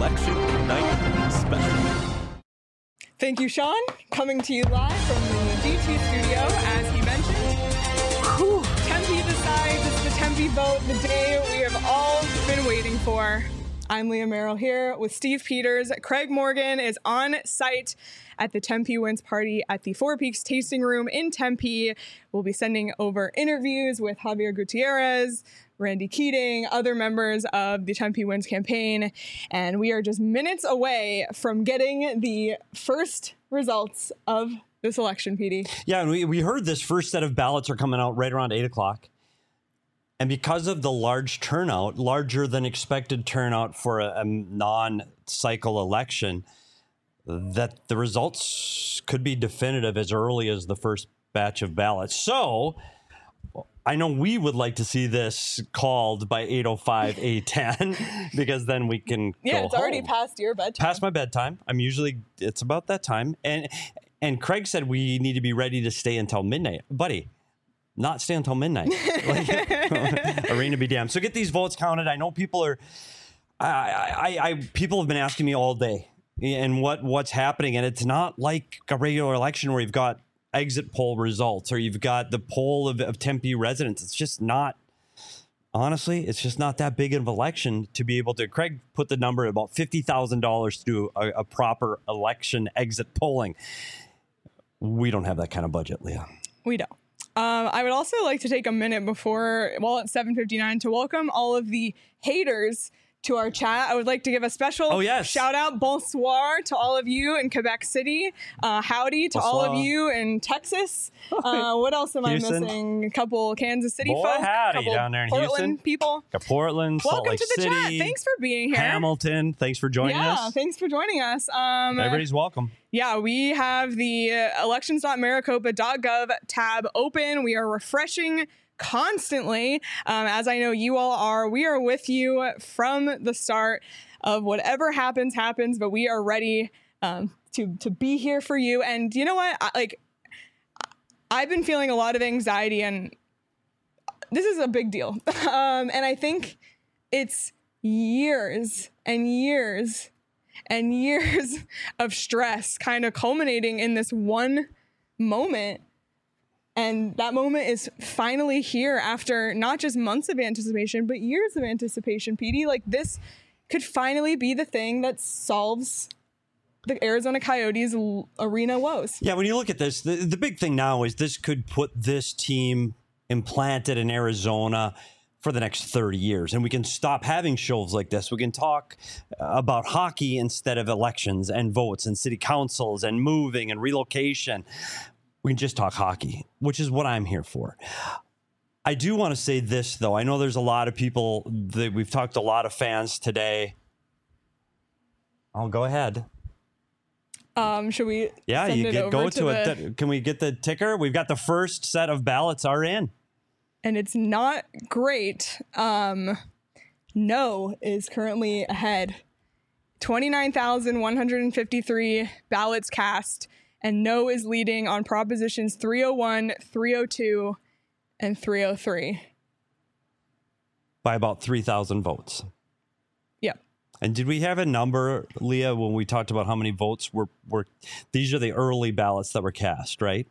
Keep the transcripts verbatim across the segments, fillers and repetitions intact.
Election Night Special. Thank you, Sean. Coming to you live from the G T studio, as he mentioned. Whew. Tempe decides. It's the Tempe vote, the day we have all been waiting for. I'm Leah Merrill here with Steve Peters. Craig Morgan is on site at the Tempe Wins Party at the Four Peaks Tasting Room in Tempe. We'll be sending over interviews with Javier Gutierrez, Randy Keating, other members of the Tempe Wins campaign, and we are just minutes away from getting the first results of this election, P D. Yeah, and we, we heard this first set of ballots are coming out right around eight o'clock. And because of the large turnout, larger than expected turnout for a, a non-cycle election, that the results could be definitive as early as the first batch of ballots. So I know we would like to see this called by eight oh five, eight ten, because then we can Yeah, go it's already home. past your bedtime. Past my bedtime. I'm usually, it's about that time. And and Craig said we need to be ready to stay until midnight. Buddy, not stay until midnight. Like, arena be damned. So get these votes counted. I know people are, I, I, I, people have been asking me all day and what, what's happening. And it's not like a regular election where you've got exit poll results or you've got the poll of, of Tempe residents. It's just not, honestly, it's just not that big of an election to be able to. Craig put the number at about fifty thousand dollars to do a, a proper election exit polling. We don't have that kind of budget, Leah. We don't. Um, I would also like to take a minute before, well, it's seven fifty-nine, to welcome all of the haters to our chat. I would like to give a special oh, yes. shout out, bonsoir, to all of you in Quebec City. Uh, howdy to bonsoir. all of you in Texas. Uh, what else am Houston. I missing? A couple Kansas City Boy, folk. howdy couple down there in Portland Houston. people. Got Portland, Salt Welcome Lake to the City, chat. Thanks for being here. Hamilton. Thanks for joining yeah, us. thanks for joining us. Um, Everybody's welcome. Yeah, we have the uh, elections dot maricopa dot gov tab open. We are refreshing constantly, um, as I know you all are. We are with you from the start of whatever happens, happens, but we are ready um, to to be here for you. And you know what? I, like, I've been feeling a lot of anxiety, and this is a big deal. um, and I think it's years and years and years of stress kind of culminating in this one moment. And that moment is finally here after not just months of anticipation, but years of anticipation, P D. Like, this could finally be the thing that solves the Arizona Coyotes l- arena woes. Yeah, when you look at this, the, the big thing now is this could put this team implanted in Arizona for the next thirty years. And we can stop having shows like this. We can talk about hockey instead of elections and votes and city councils and moving and relocation. We can just talk hockey, which is what I'm here for. I do want to say this, though. I know there's a lot of people that we've talked to a lot of fans today. I'll go ahead. Um, should we? Yeah, send you it get over go to, to, the, it. Can we get the ticker? We've got the first set of ballots are in. And it's not great. Um, no is currently ahead. twenty-nine thousand one hundred fifty-three ballots cast. And no is leading on propositions three oh one, three oh two, and three oh three. By about three thousand votes. Yeah. And did we have a number, Leah, when we talked about how many votes were, were these are the early ballots that were cast, right?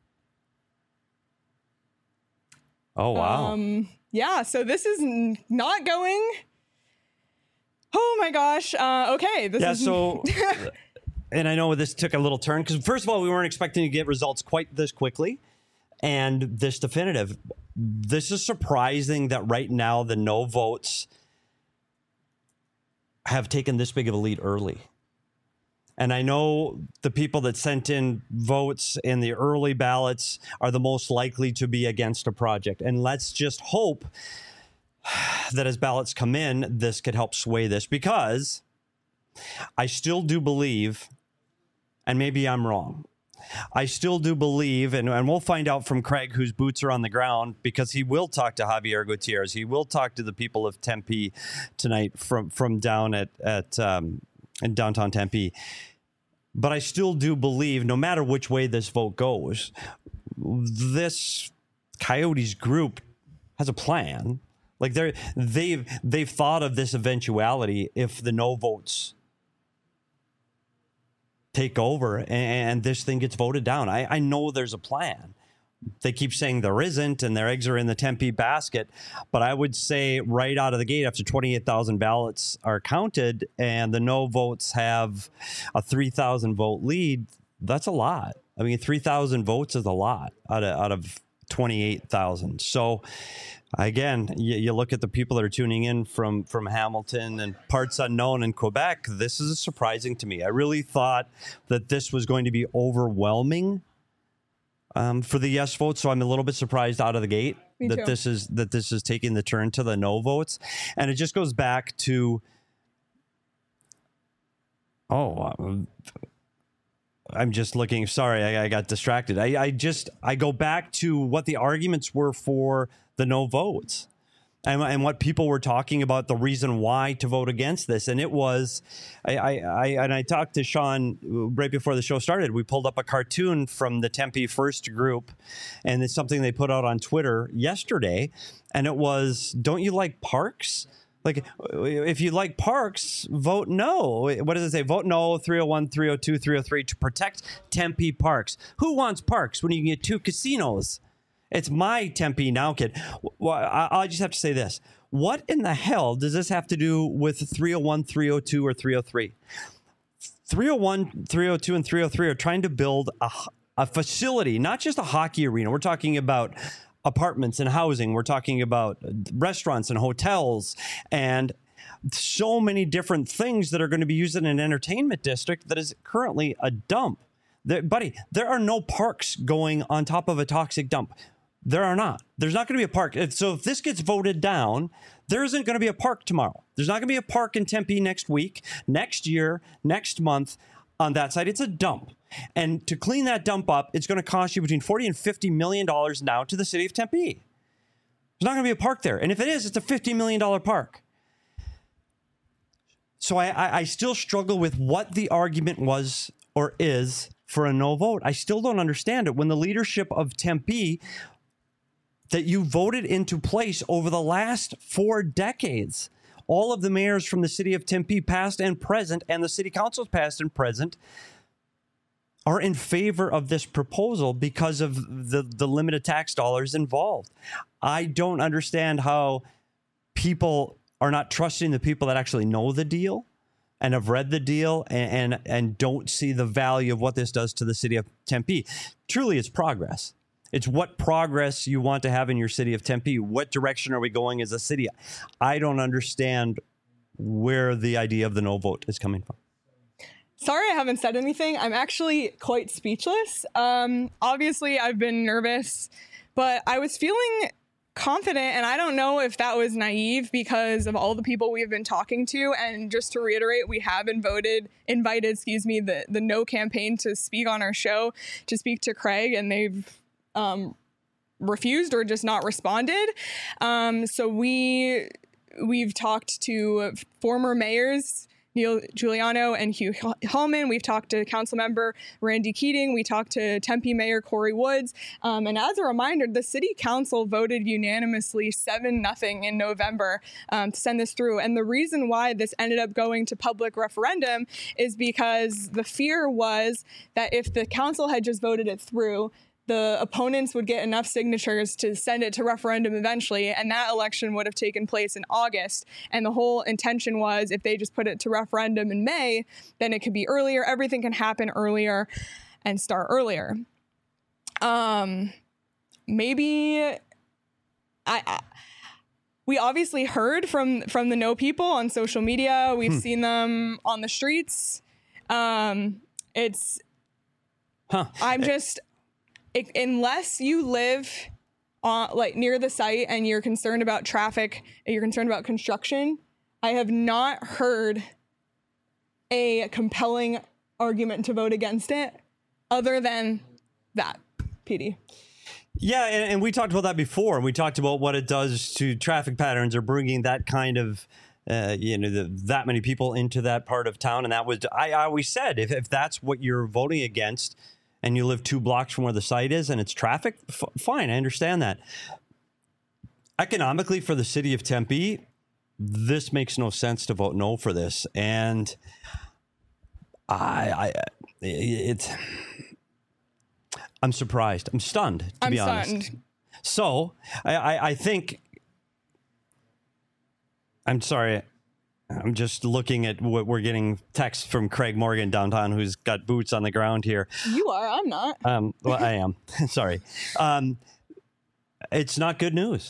Oh, wow. Um, yeah, so this is n- not going. Oh, my gosh. Uh, okay. This yeah, is... so... And I know this took a little turn because, first of all, we weren't expecting to get results quite this quickly and this definitive. This is surprising that right now the no votes have taken this big of a lead early. And I know the people that sent in votes in the early ballots are the most likely to be against a project. And let's just hope that as ballots come in, this could help sway this, because I still do believe, and maybe I'm wrong, I still do believe, and, and we'll find out from Craig, whose boots are on the ground, because he will talk to Javier Gutierrez. He will talk to the people of Tempe tonight from, from down at, at um, in downtown Tempe. But I still do believe, no matter which way this vote goes, this Coyotes group has a plan. Like they're they've they've thought of this eventuality if the no votes take over and, and this thing gets voted down. I, I know there's a plan. They keep saying there isn't, and their eggs are in the Tempe basket. But I would say right out of the gate, after twenty-eight thousand ballots are counted and the no votes have a three thousand vote lead, that's a lot. I mean, three thousand votes is a lot out of, out of twenty-eight thousand. So again, you, you look at the people that are tuning in from, from Hamilton and parts unknown in Quebec. This is surprising to me. I really thought that this was going to be overwhelming Um, for the yes vote, so I'm a little bit surprised out of the gate Me that too. this is that this is taking the turn to the no votes, and it just goes back to oh, um, I'm just looking. Sorry, I, I got distracted. I, I just I go back to what the arguments were for the no votes. And, and what people were talking about, the reason why to vote against this. And it was, I, I, I and I talked to Sean right before the show started. We pulled up a cartoon from the Tempe First group, and it's something they put out on Twitter yesterday. And it was, don't you like parks? Like, if you like parks, vote no. What does it say? Vote no, three oh one, three oh two, three oh three to protect Tempe parks. Who wants parks when you can get two casinos? It's my Tempe now, kid. Well, I, I just have to say this. What in the hell does this have to do with three oh one, three oh two, or three oh three? three oh one, three oh two, and three oh three are trying to build a, a facility, not just a hockey arena. We're talking about apartments and housing. We're talking about restaurants and hotels and so many different things that are going to be used in an entertainment district that is currently a dump. There, buddy, there are no parks going on top of a toxic dump. There are not. There's not going to be a park. So if this gets voted down, there isn't going to be a park tomorrow. There's not going to be a park in Tempe next week, next year, next month on that side. It's a dump. And to clean that dump up, it's going to cost you between forty and fifty million dollars now to the city of Tempe. There's not going to be a park there. And if it is, it's a fifty million dollars park. So I, I, I still struggle with what the argument was or is for a no vote. I still don't understand it when the leadership of Tempe that you voted into place over the last four decades, all of the mayors from the city of Tempe, past and present, and the city councils past and present, are in favor of this proposal because of the, the limited tax dollars involved. I don't understand how people are not trusting the people that actually know the deal and have read the deal and, and, and don't see the value of what this does to the city of Tempe. Truly, it's progress. It's what progress you want to have in your city of Tempe. What direction are we going as a city? I don't understand where the idea of the no vote is coming from. Sorry I haven't said anything. I'm actually quite speechless. Um, obviously, I've been nervous, but I was feeling confident, and I don't know if that was naive because of all the people we've been talking to. And just to reiterate, we have been voted, invited, excuse me, the, the No campaign to speak on our show, to speak to Craig, and they've um, refused or just not responded. Um, so we, we've talked to former mayors, Neil Giuliano and Hugh Hallman. We've talked to council member Randy Keating. We talked to Tempe Mayor Corey Woods. Um, and as a reminder, the city council voted unanimously seven nothing in November um, to send this through. And the reason why this ended up going to public referendum is because the fear was that if the council had just voted it through, the opponents would get enough signatures to send it to referendum eventually, and that election would have taken place in August. And the whole intention was if they just put it to referendum in May, then it could be earlier. Everything can happen earlier and start earlier. Um, maybe I, I we obviously heard from from the No people on social media. We've hmm. seen them on the streets. Um, it's huh. I'm just. It, unless you live on, like near the site and you're concerned about traffic, and you're concerned about construction, I have not heard a compelling argument to vote against it other than that, P D. Yeah, and, and we talked about that before. We talked about what it does to traffic patterns or bringing that kind of, uh, you know, the, that many people into that part of town. And that was, I, I always said, if, if that's what you're voting against, and you live two blocks from where the site is and it's traffic, f- fine, I understand that. Economically, for the city of Tempe, this makes no sense to vote no for this. And I, I it's, I'm surprised. I'm stunned, to I'm be stunned. honest. So I, I, I think, I'm sorry. I'm just looking at what we're getting texts from Craig Morgan downtown, who's got boots on the ground here. You are. I'm not. Um, well, I am. Sorry. Um, it's not good news.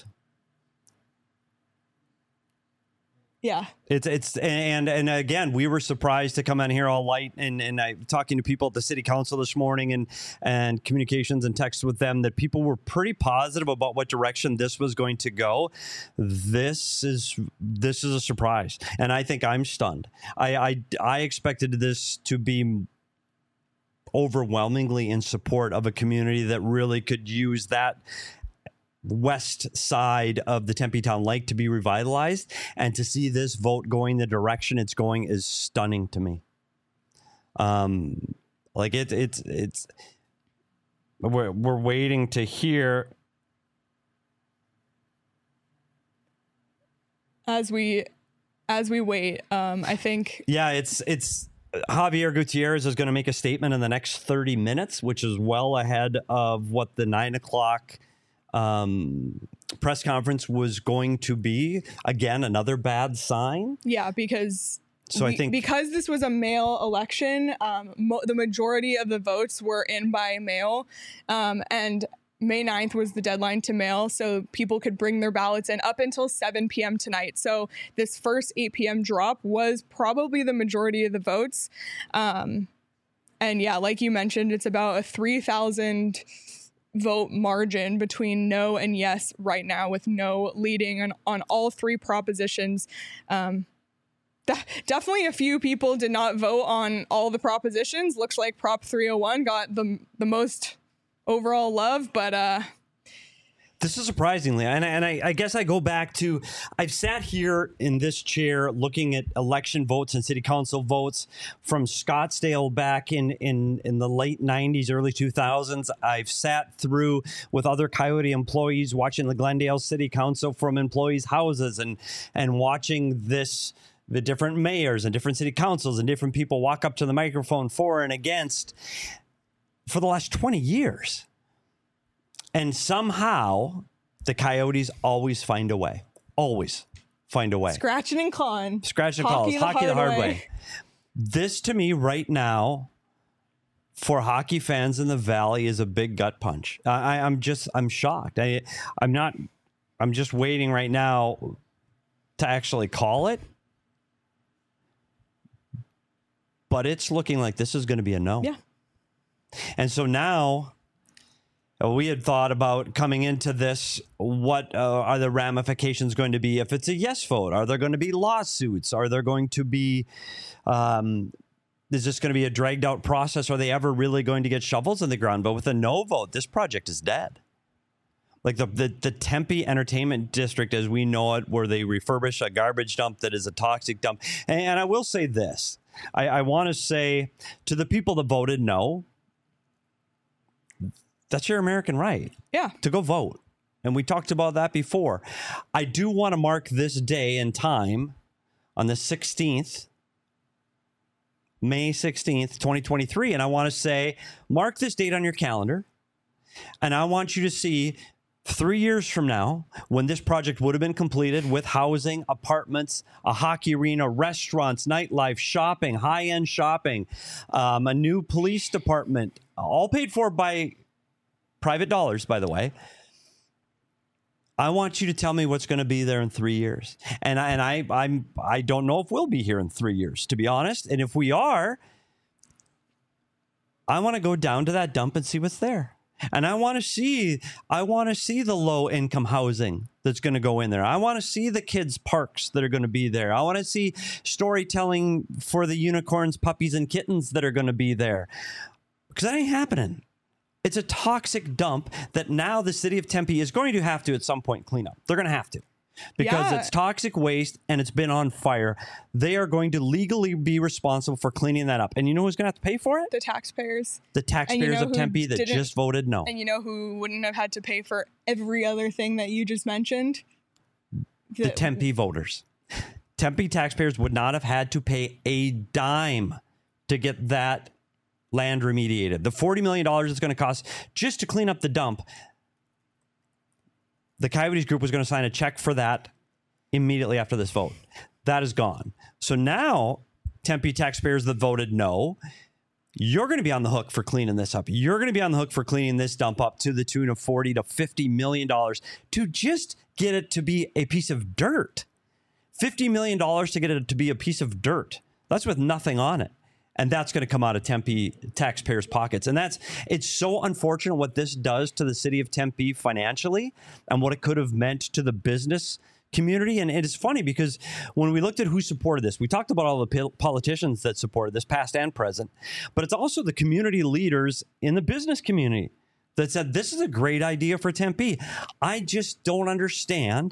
Yeah. It's it's and and again, we were surprised to come in here all light and and I talking to people at the city council this morning and and communications and texts with them that people were pretty positive about what direction this was going to go. This is this is a surprise, and I think I'm stunned. I I, I expected this to be overwhelmingly in support of a community that really could use that west side of the Tempe Town Lake to be revitalized, and to see this vote going the direction it's going is stunning to me. Um, like it, it's it's we're we're waiting to hear As we as we wait, um, I think. Yeah, it's it's. Javier Gutierrez is going to make a statement in the next thirty minutes, which is well ahead of what the nine o'clock um, press conference was going to be. Again, another bad sign. Yeah, because so we, I think because this was a mail election, um, mo- the majority of the votes were in by mail, um, and May ninth was the deadline to mail, so people could bring their ballots in up until seven p.m. tonight. So this first eight p.m. drop was probably the majority of the votes. Um, and yeah, like you mentioned, it's about a three thousand vote margin between no and yes right now, with no leading on, on all three propositions. Um, de- definitely a few people did not vote on all the propositions. Looks like Prop three oh one got the the most overall love, but uh this is surprisingly, and, and I, I guess I go back to, I've sat here in this chair looking at election votes and city council votes from Scottsdale back in, in, in the late nineties, early two thousands. I've sat through with other Coyote employees watching the Glendale City Council from employees' houses and and watching this, the different mayors and different city councils and different people walk up to the microphone for and against for the last twenty years. And somehow the Coyotes always find a way, always find a way. Scratching and clawing. Scratch and claws, hockey the hard way. This to me right now for hockey fans in the Valley is a big gut punch. I, I'm just, I'm shocked. I, I'm not, I'm just waiting right now to actually call it. But it's looking like this is going to be a no. Yeah. And so now uh, we had thought about coming into this, what uh, are the ramifications going to be if it's a yes vote? Are there going to be lawsuits? Are there going to be, um, is this going to be a dragged out process? Are they ever really going to get shovels in the ground? But with a no vote, this project is dead. Like the, the, the Tempe Entertainment District, as we know it, where they refurbish a garbage dump that is a toxic dump. And, and I will say this, I, I want to say to the people that voted no, that's your American right. Yeah. To go vote. And we talked about that before. I do want to mark this day and time on the sixteenth, May sixteenth, twenty twenty-three. And I want to say, mark this date on your calendar. And I want you to see three years from now, when this project would have been completed with housing, apartments, a hockey arena, restaurants, nightlife, shopping, high-end shopping, um, a new police department, all paid for by private dollars, by the way. I want you to tell me what's going to be there in three years. And I, and I, I'm, I don't know if we'll be here in three years, to be honest. And if we are, I want to go down to that dump and see what's there. And I want to see, I want to see the low income housing that's going to go in there. I want to see the kids' parks that are going to be there. I want to see storytelling for the unicorns, puppies, and kittens that are going to be there. Because that ain't happening. It's a toxic dump that now the city of Tempe is going to have to at some point clean up. They're going to have to. Because Yeah. it's toxic waste and it's been on fire. They are going to legally be responsible for cleaning that up. And you know who's going to have to pay for it? The taxpayers. The taxpayers know of who Tempe that didn't- just voted no. And you know who wouldn't have had to pay for every other thing that you just mentioned? The Tempe voters. Tempe taxpayers would not have had to pay a dime to get that land remediated. The forty million dollars it's going to cost just to clean up the dump, the Coyotes group was going to sign a check for that immediately after this vote. That is gone. So now, Tempe taxpayers that voted no, you're going to be on the hook for cleaning this up. You're going to be on the hook for cleaning this dump up to the tune of forty to fifty million dollars to just get it to be a piece of dirt. fifty million dollars to get it to be a piece of dirt. That's with nothing on it. And that's going to come out of Tempe taxpayers' pockets. And that's, it's so unfortunate what this does to the city of Tempe financially and what it could have meant to the business community. And it is funny because when we looked at who supported this, we talked about all the politicians that supported this, past and present, but it's also the community leaders in the business community that said, this is a great idea for Tempe. I just don't understand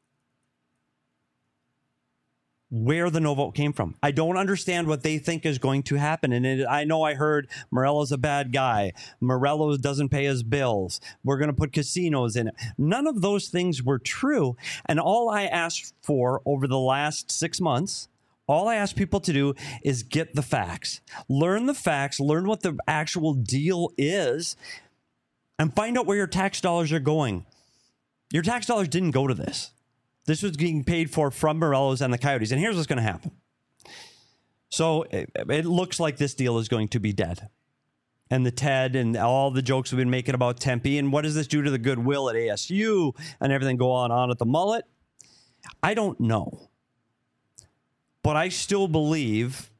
where the no vote came from. I don't understand what they think is going to happen. And it, I know I heard Morello's a bad guy. Morello doesn't pay his bills. We're going to put casinos in it. None of those things were true. And all I asked for over the last six months, all I asked people to do is get the facts. Learn the facts. Learn what the actual deal is. And find out where your tax dollars are going. Your tax dollars didn't go to this. This was getting paid for from Morello's and the Coyotes. And here's what's going to happen. So it, it looks like this deal is going to be dead. And the Ted and all the jokes we've been making about Tempe and what does this do to the goodwill at A S U and everything go on on at the Mullet? I don't know. But I still believe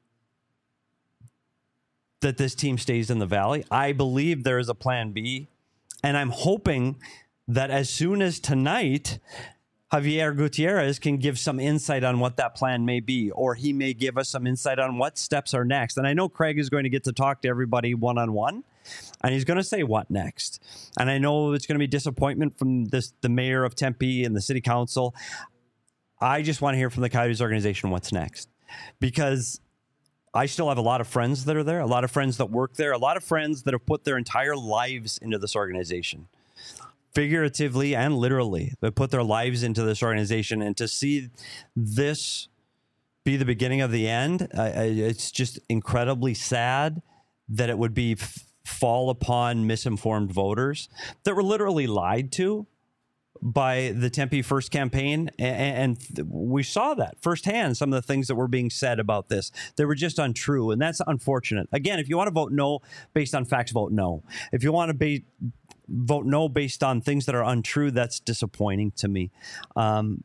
that this team stays in the Valley. I believe there is a plan B. And I'm hoping that as soon as tonight, Javier Gutierrez can give some insight on what that plan may be, or he may give us some insight on what steps are next. And I know Craig is going to get to talk to everybody one-on-one, and he's going to say what next. And I know it's going to be disappointment from this, the mayor of Tempe and the city council. I just want to hear from the Coyotes organization what's next, because I still have a lot of friends that are there, a lot of friends that work there, a lot of friends that have put their entire lives into this organization. Figuratively and literally, they put their lives into this organization, and to see this be the beginning of the end, uh, it's just incredibly sad that it would be f- fall upon misinformed voters that were literally lied to by the Tempe First campaign. And, and we saw that firsthand, some of the things that were being said about this. They were just untrue, and that's unfortunate. Again, if you want to vote no based on facts, vote no. If you want to be vote no based on things that are untrue, that's disappointing to me. Um,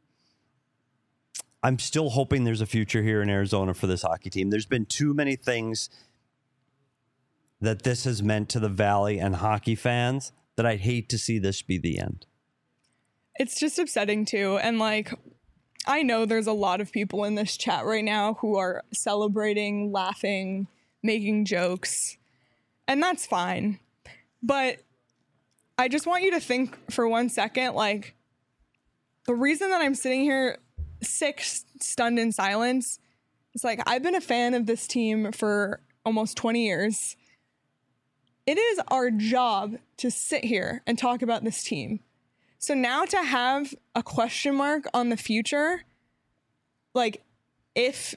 I'm still hoping there's a future here in Arizona for this hockey team. There's been too many things that this has meant to the Valley and hockey fans that I'd hate to see this be the end. It's just upsetting too. And like, I know there's a lot of people in this chat right now who are celebrating, laughing, making jokes, and that's fine. But I just want you to think for one second, like, the reason that I'm sitting here sick, stunned in silence, is like, I've been a fan of this team for almost twenty years. It is our job to sit here and talk about this team. So now to have a question mark on the future, like, if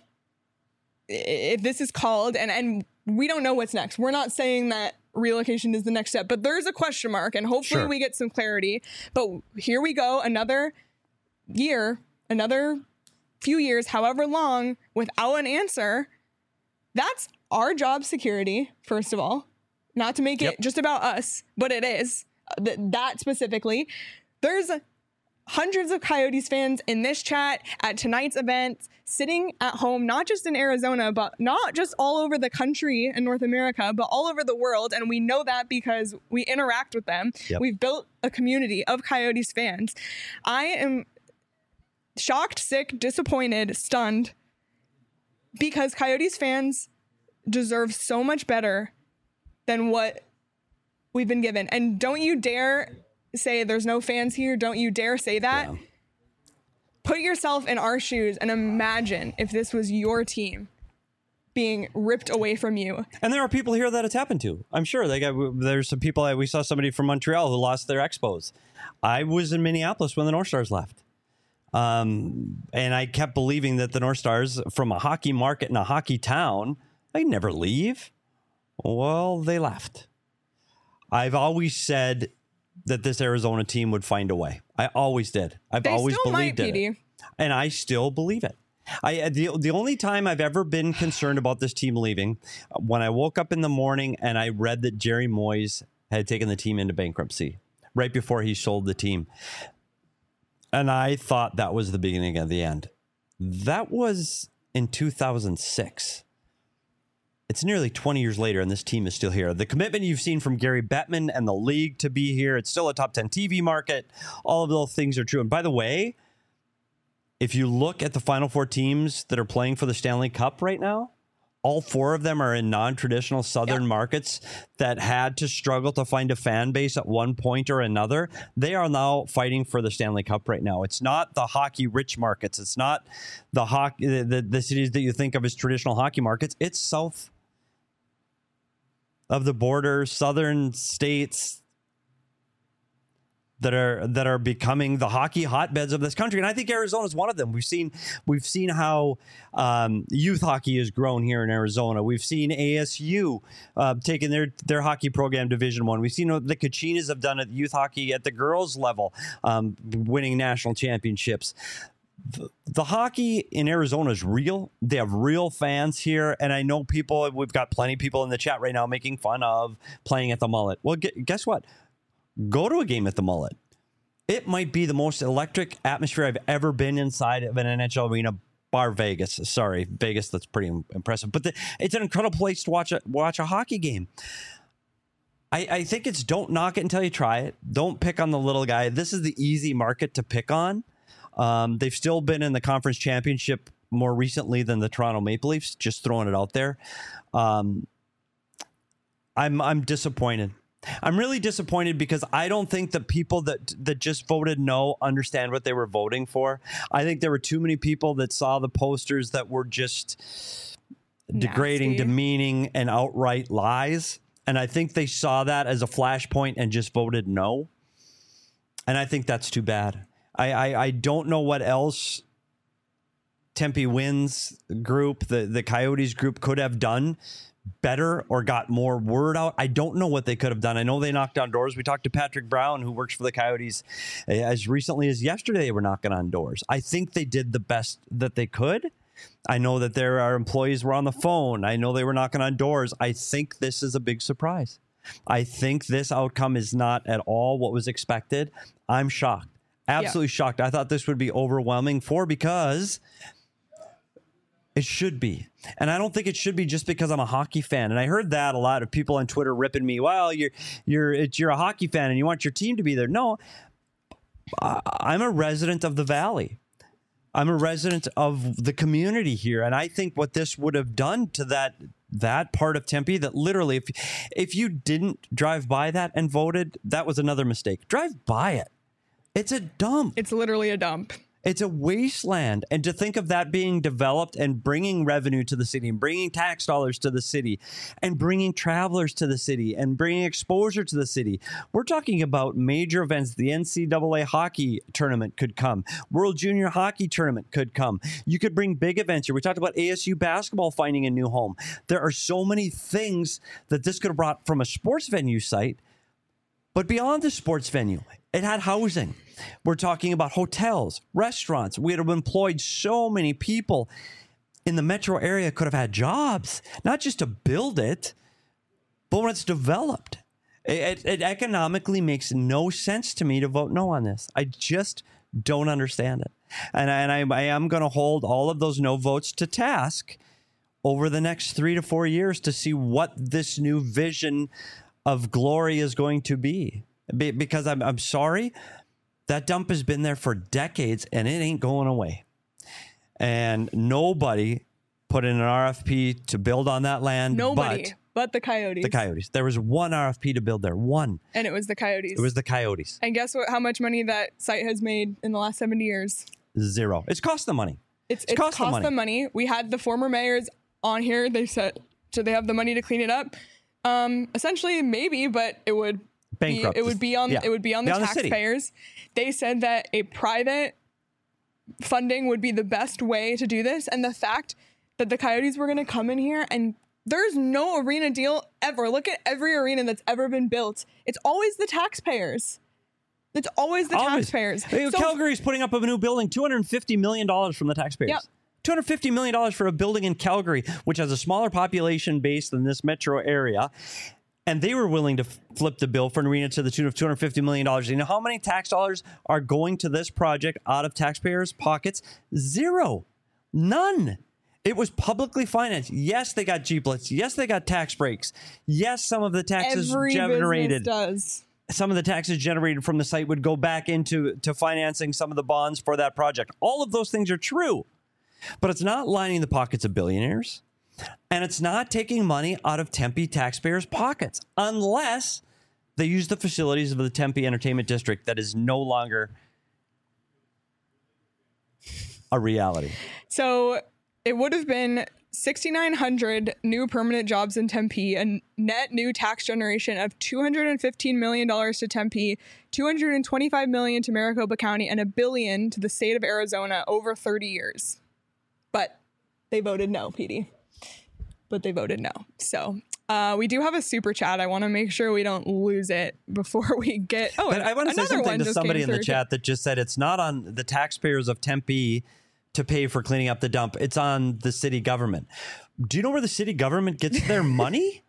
if this is called, and, and we don't know what's next. We're not saying that relocation is the next step, but there's a question mark, and hopefully Sure. we get some clarity. But here we go, another year, another few years, however long, without an answer. That's our job security, first of all. Not to make Yep. it just about us, but it is. Th- that specifically. There's hundreds of Coyotes fans in this chat at tonight's event, sitting at home, not just in Arizona, but not just all over the country in North America, but all over the world. And we know that because we interact with them. Yep. We've built a community of Coyotes fans. I am shocked, sick, disappointed, stunned, because Coyotes fans deserve so much better than what we've been given. And don't you dare say there's no fans here. Don't you dare say that. Yeah. Put yourself in our shoes and imagine if this was your team being ripped away from you. And there are people here that it's happened to. I'm sure they got. There's some people. We saw somebody from Montreal who lost their Expos. I was in Minneapolis when the North Stars left, um, and I kept believing that the North Stars, from a hockey market in a hockey town, they never leave. Well, they left. I've always said that this Arizona team would find a way. I always did. I've They always still might, believed P in D. it. And I still believe it. I the, the only time I've ever been concerned about this team leaving, when I woke up in the morning and I read that Jerry Moyes had taken the team into bankruptcy right before he sold the team. And I thought that was the beginning of the end. That was in two thousand six. It's nearly twenty years later, and this team is still here. The commitment you've seen from Gary Bettman and the league to be here, it's still a top ten T V market. All of those things are true. And by the way, if you look at the Final Four teams that are playing for the Stanley Cup right now, all four of them are in non-traditional Southern Yeah. markets that had to struggle to find a fan base at one point or another. They are now fighting for the Stanley Cup right now. It's not the hockey-rich markets. It's not the hockey the, the, the cities that you think of as traditional hockey markets. It's south of the border, southern states that are that are becoming the hockey hotbeds of this country, and I think Arizona is one of them. We've seen we've seen how um, youth hockey has grown here in Arizona. We've seen A S U uh, taking their their hockey program Division One. We've seen what the Kachinas have done at youth hockey at the girls level, um, winning national championships. The, the hockey in Arizona is real. They have real fans here, and I know people. We've got plenty of people in the chat right now making fun of playing at the Mullet. Well, gu- guess what? Go to a game at the Mullet. It might be the most electric atmosphere I've ever been inside of an N H L arena, bar Vegas. Sorry, Vegas, that's pretty impressive. But the, it's an incredible place to watch a, watch a hockey game. I, I think it's don't knock it until you try it. Don't pick on the little guy. This is the easy market to pick on. Um, they've still been in the conference championship more recently than the Toronto Maple Leafs, just throwing it out there. Um, I'm I'm disappointed. I'm really disappointed because I don't think the people that that just voted no understand what they were voting for. I think there were too many people that saw the posters that were just degrading, Nasty. demeaning, and outright lies. And I think they saw that as a flashpoint and just voted no. And I think that's too bad. I, I, I don't know what else Tempe Wins group, the, the Coyotes group could have done better or got more word out. I don't know what they could have done. I know they knocked on doors. We talked to Patrick Brown, who works for the Coyotes, as recently as yesterday. They were knocking on doors. I think they did the best that they could. I know that there are employees were on the phone. I know they were knocking on doors. I think this is a big surprise. I think this outcome is not at all what was expected. I'm shocked. Absolutely yeah. shocked. I thought this would be overwhelming for because it should be. And I don't think it should be just because I'm a hockey fan. And I heard that a lot of people on Twitter ripping me. Well, you're you're it's, you're a hockey fan and you want your team to be there. No, I'm a resident of the Valley. I'm a resident of the community here. And I think what this would have done to that that part of Tempe, that literally, if if you didn't drive by that and voted, that was another mistake. Drive by it. It's a dump. It's literally a dump. It's a wasteland. And to think of that being developed and bringing revenue to the city and bringing tax dollars to the city and bringing travelers to the city and bringing exposure to the city. We're talking about major events. The N C double A hockey tournament could come. World Junior Hockey Tournament could come. You could bring big events here. We talked about A S U basketball finding a new home. There are so many things that this could have brought from a sports venue site. But beyond the sports venue, it had housing. We're talking about hotels, restaurants. We would have employed so many people in the metro area could have had jobs, not just to build it, but when it's developed. It, it economically makes no sense to me to vote no on this. I just don't understand it. And I, and I, I am going to hold all of those no votes to task over the next three to four years to see what this new vision of glory is going to be. Be, because I'm, I'm sorry, that dump has been there for decades and it ain't going away. And nobody put in an R F P to build on that land. Nobody but, but the Coyotes. The Coyotes. There was one R F P to build there. One. And it was the Coyotes. It was the Coyotes. And guess what? How much money that site has made in the last seventy years? Zero. It's cost them money. It's, it's, it's cost, cost them, money. them money. We had the former mayors on here. They said, so they have the money to clean it up. Um, essentially, maybe, but it would Bankrupt. Be, it would be on. Yeah. It would be on the be on taxpayers. The they said that a private funding would be the best way to do this, and the fact that the Coyotes were going to come in here and There's no arena deal ever. Look at every arena that's ever been built. It's always the taxpayers. It's always the Always. taxpayers. Hey, So- Calgary's putting up a new building, two hundred fifty million dollars from the taxpayers. Yep. two hundred fifty million dollars for a building in Calgary, which has a smaller population base than this metro area. And they were willing to f- flip the bill for an arena to the tune of two hundred fifty million dollars. You know how many tax dollars are going to this project out of taxpayers' pockets? Zero. None. It was publicly financed. Yes, they got G-Blitz. Yes, they got tax breaks. Yes, some of the taxes Every generated. business does. Some of the taxes generated from the site would go back into to financing some of the bonds for that project. All of those things are true, but it's not lining the pockets of billionaires, and it's not taking money out of Tempe taxpayers' pockets unless they use the facilities of the Tempe Entertainment District that is no longer a reality. So it would have been six thousand nine hundred new permanent jobs in Tempe, a net new tax generation of two hundred fifteen million dollars to Tempe, two hundred twenty-five million dollars to Maricopa County, and a billion to the state of Arizona over thirty years. But they voted no, Petey. But they voted no. So uh, we do have a super chat. I want to make sure we don't lose it before we get. Oh, But I want to say another something one to just somebody came in the through. chat that just said it's not on the taxpayers of Tempe to pay for cleaning up the dump. It's on the city government. Do you know where the city government gets their money?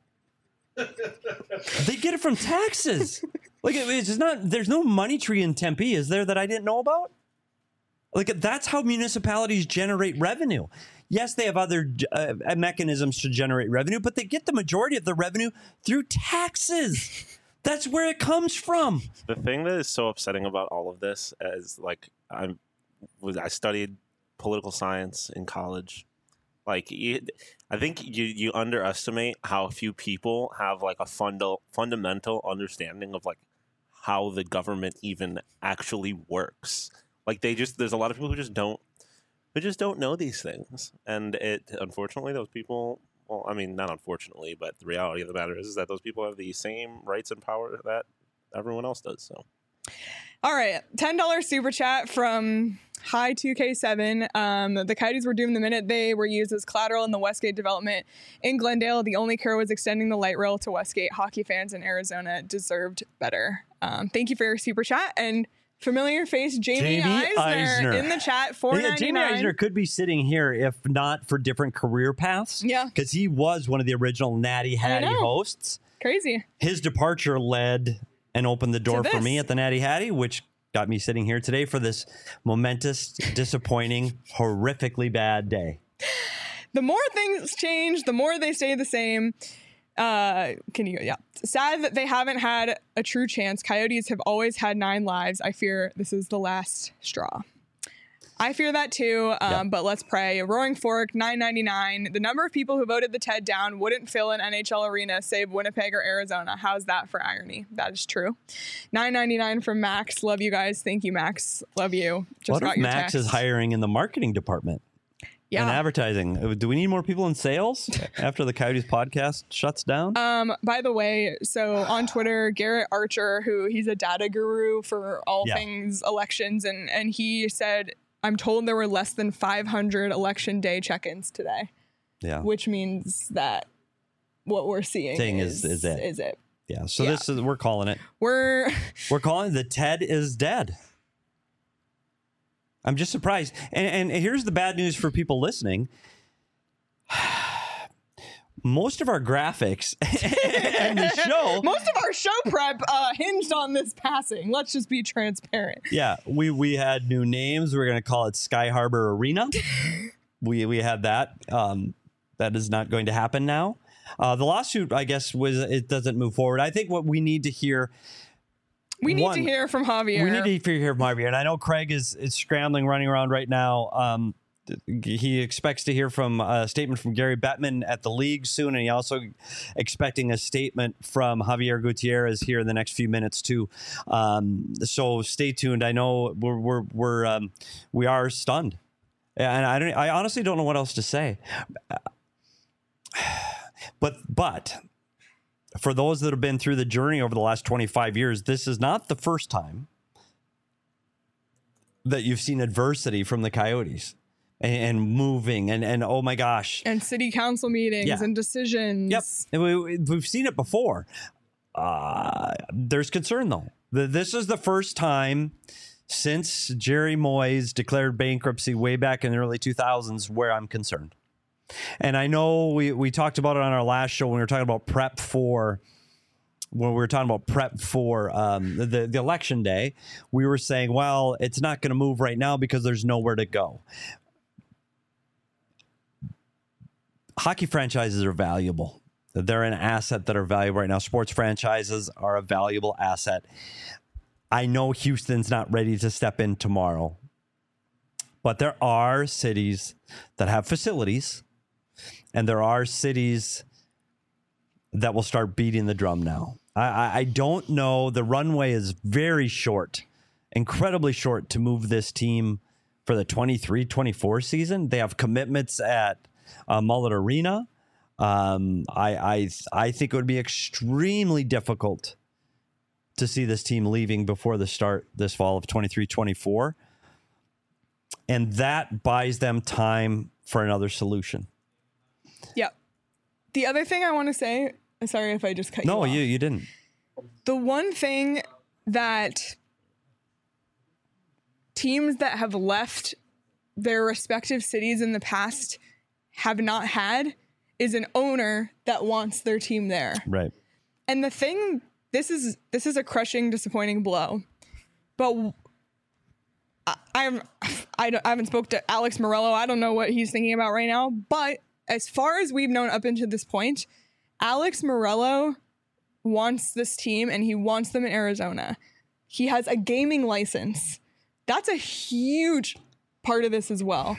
They get it from taxes. Like it- it's not. There's no money tree in Tempe, is there, that I didn't know about? Like that's how municipalities generate revenue. Yes, they have other uh, mechanisms to generate revenue, but they get the majority of the revenue through taxes. That's where it comes from. The thing that is so upsetting about all of this is like I'm was I studied political science in college. Like you, I think you you underestimate how few people have like a funda- fundamental understanding of like how the government even actually works. Like they just there's a lot of people who just don't who just don't know these things, and it unfortunately those people. Well, I mean, not unfortunately, but the reality of the matter is, is that those people have the same rights and power that everyone else does. So, All right, ten dollars super chat from High two K seven. Um, the Coyotes were doomed the minute they were used as collateral in the Westgate development in Glendale. The only care was extending the light rail to Westgate. Hockey fans in Arizona deserved better. Um, thank you for your super chat. And familiar face Jamie, Jamie Eisner, Eisner. in the chat, four Yeah, Jamie ninety-nine. Eisner could be sitting here if not for different career paths. Yeah. Because he was one of the original Natty Hattie know. hosts. Crazy. His departure led and opened the door for this. me at the Natty Hattie, which got me sitting here today for this momentous, disappointing, horrifically bad day. The more things change, the more they stay the same. Uh, can you, yeah. Sad that they haven't had a true chance. Coyotes have always had nine lives. I fear this is the last straw. I fear that too, um, Yeah. but let's pray. Roaring Fork, nine ninety-nine. The number of people who voted the T E D down wouldn't fill an N H L arena, save Winnipeg or Arizona. How's that for irony? That is true. nine ninety-nine from Max. Love you guys. Thank you, Max. Love you. Just What got if your Max text. is hiring in the marketing department Yeah. and advertising? Uh, Do we need more people in sales after the Coyotes podcast shuts down? Um, by the way, so on Twitter, Garrett Archer, who he's a data guru for all Yeah. things elections, and and he said, I'm told there were less than five hundred election day check-ins today, yeah. which means that what we're seeing Thing is, is- is it. Is it. Yeah. So yeah. this is, we're calling it. We're We're calling it the T E D is dead. I'm just surprised. And, and here's the bad news for people listening. Most of our graphics and the show, most of our show prep uh, hinged on this passing. Let's just be transparent. yeah, we we had new names. We're going to call it Sky Harbor Arena. we we had that. Um, that is not going to happen now. Uh, the lawsuit, I guess, was it doesn't move forward. I think what we need to hear. We need One, to hear from Javier. We need to hear from Javier, and I know Craig is is scrambling, running around right now. Um, he expects to hear from a statement from Gary Bettman at the league soon, and he also expecting a statement from Javier Gutierrez here in the next few minutes too. Um, so stay tuned. I know we're we're, we're um, we are stunned, and I don't. I honestly don't know what else to say. But but. For those that have been through the journey over the last twenty-five years, this is not the first time that you've seen adversity from the Coyotes. and, and moving and, and oh my gosh. And city council meetings Yeah. and decisions. Yep. And we, we've seen it before. Uh, there's concern, though. The, this is the first time since Jerry Moyes declared bankruptcy way back in the early two thousands where I'm concerned. And I know we, we talked about it on our last show when we were talking about prep for when we were talking about prep for um, the, the election day. We were saying, well, it's not going to move right now because there's nowhere to go. Hockey franchises are valuable. They're an asset that are valuable right now. Sports franchises are a valuable asset. I know Houston's not ready to step in tomorrow, but there are cities that have facilities, and there are cities that will start beating the drum now. I, I, I don't know. The runway is very short, incredibly short to move this team for the twenty-three twenty-four season. They have commitments at uh, Mullet Arena. Um, I, I, I think it would be extremely difficult to see this team leaving before the start this fall of twenty-three twenty-four. And that buys them time for another solution. Yeah. The other thing I want to say, sorry if I just cut you No, off. you, you didn't. The one thing that teams that have left their respective cities in the past have not had is an owner that wants their team there. Right. And the thing, this is this is a crushing, disappointing blow. But I, I'm I, don't, I haven't spoke to Alex Morello. I don't know what he's thinking about right now. But as far as we've known up until this point, Alex Morello wants this team and he wants them in Arizona. He has a gaming license. That's a huge part of this as well.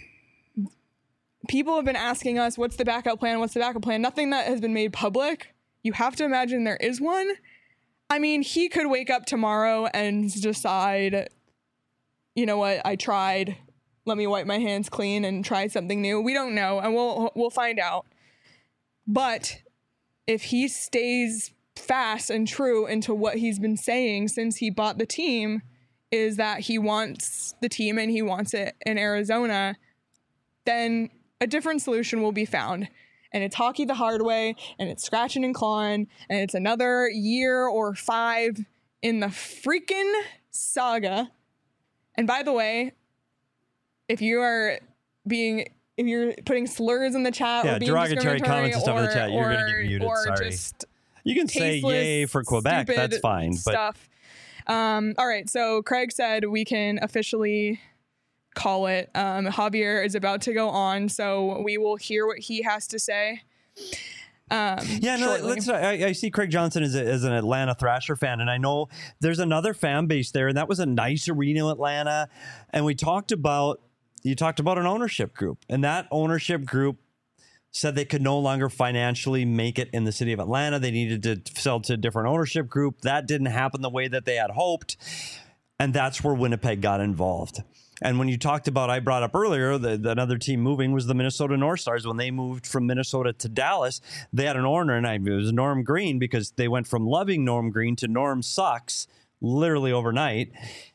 People have been asking us, what's the backup plan? What's the backup plan? Nothing that has been made public. You have to imagine there is one. I mean, he could wake up tomorrow and decide, you know what, I tried. Let me wipe my hands clean and try something new. We don't know, and we'll we'll find out. But if he stays fast and true into what he's been saying since he bought the team, is that he wants the team and he wants it in Arizona, then a different solution will be found. And it's hockey the hard way, and it's scratching and clawing, and it's another year or five in the freaking saga. And by the way, if you are being, if you're putting slurs in the chat Yeah, or being derogatory discriminatory comments and stuff or, in the chat, you're or, gonna get muted, or sorry. just You can say tasteless, yay for Quebec. stupid That's fine. But stuff. Um, all right, so Craig said we can officially call it. Um, Javier is about to go on, so we will hear what he has to say. Um, yeah, no, shortly. let's. I, I see Craig Johnson as, a, as an Atlanta Thrasher fan, and I know there's another fan base there, and that was a nice arena in Atlanta. And we talked about you talked about an ownership group, and that ownership group said they could no longer financially make it in the city of Atlanta. They needed to sell to a different ownership group. That didn't happen the way that they had hoped, and that's where Winnipeg got involved. And when you talked about, I brought up earlier, that another team moving was the Minnesota North Stars. When they moved from Minnesota to Dallas, they had an owner, and I, it was Norm Green, because they went from loving Norm Green to Norm sucks literally overnight.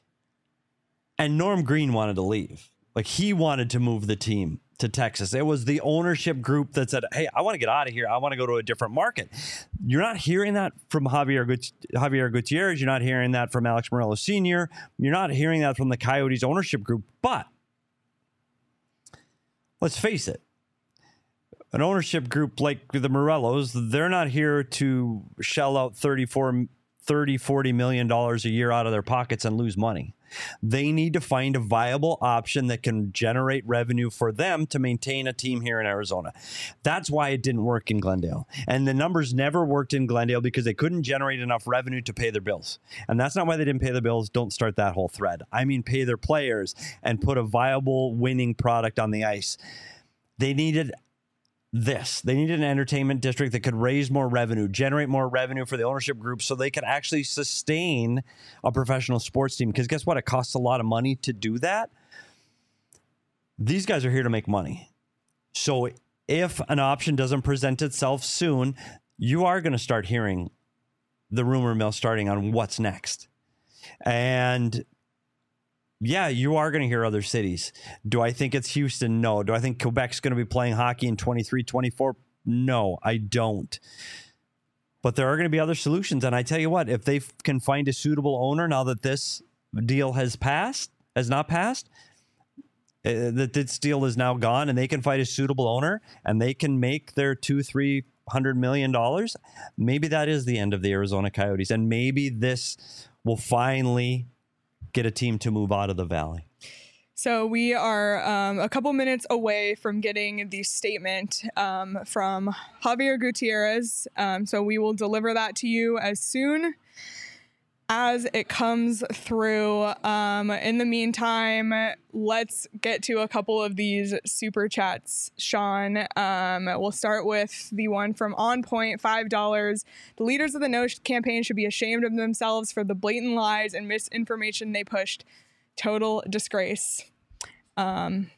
And Norm Green wanted to leave. Like, he wanted to move the team to Texas. It was the ownership group that said, hey, I want to get out of here. I want to go to a different market. You're not hearing that from Javier, Gut- Javier Gutierrez. You're not hearing that from Alex Morello Senior You're not hearing that from the Coyotes ownership group. But let's face it, an ownership group like the Morellos, they're not here to shell out thirty-four, thirty, forty million dollars a year out of their pockets and lose money. They need to find a viable option that can generate revenue for them to maintain a team here in Arizona. That's why it didn't work in Glendale. And the numbers never worked in Glendale because they couldn't generate enough revenue to pay their bills. And that's not why they didn't pay their bills. Don't start that whole thread. I mean, pay their players and put a viable winning product on the ice. They needed this. They needed an entertainment district that could raise more revenue, generate more revenue for the ownership group so they could actually sustain a professional sports team. Because guess what? It costs a lot of money to do that. These guys are here to make money. So if an option doesn't present itself soon, you are going to start hearing the rumor mill starting on what's next. And yeah, you are going to hear other cities. Do I think it's Houston? No. Do I think Quebec's going to be playing hockey in twenty-three twenty-four? No, I don't. But there are going to be other solutions. And I tell you what, if they f- can find a suitable owner now that this deal has passed, has not passed, uh, that this deal is now gone, and they can find a suitable owner and they can make their two, three hundred million dollars, maybe that is the end of the Arizona Coyotes. And maybe this will finally get a team to move out of the Valley. So we are um, a couple minutes away from getting the statement um, from Javier Gutierrez. Um, so we will deliver that to you as soon as it comes through. Um, in the meantime, let's get to a couple of these super chats, Sean. Um, we'll start with the one from On Point, five dollars. The leaders of the No campaign should be ashamed of themselves for the blatant lies and misinformation they pushed. Total disgrace. Um,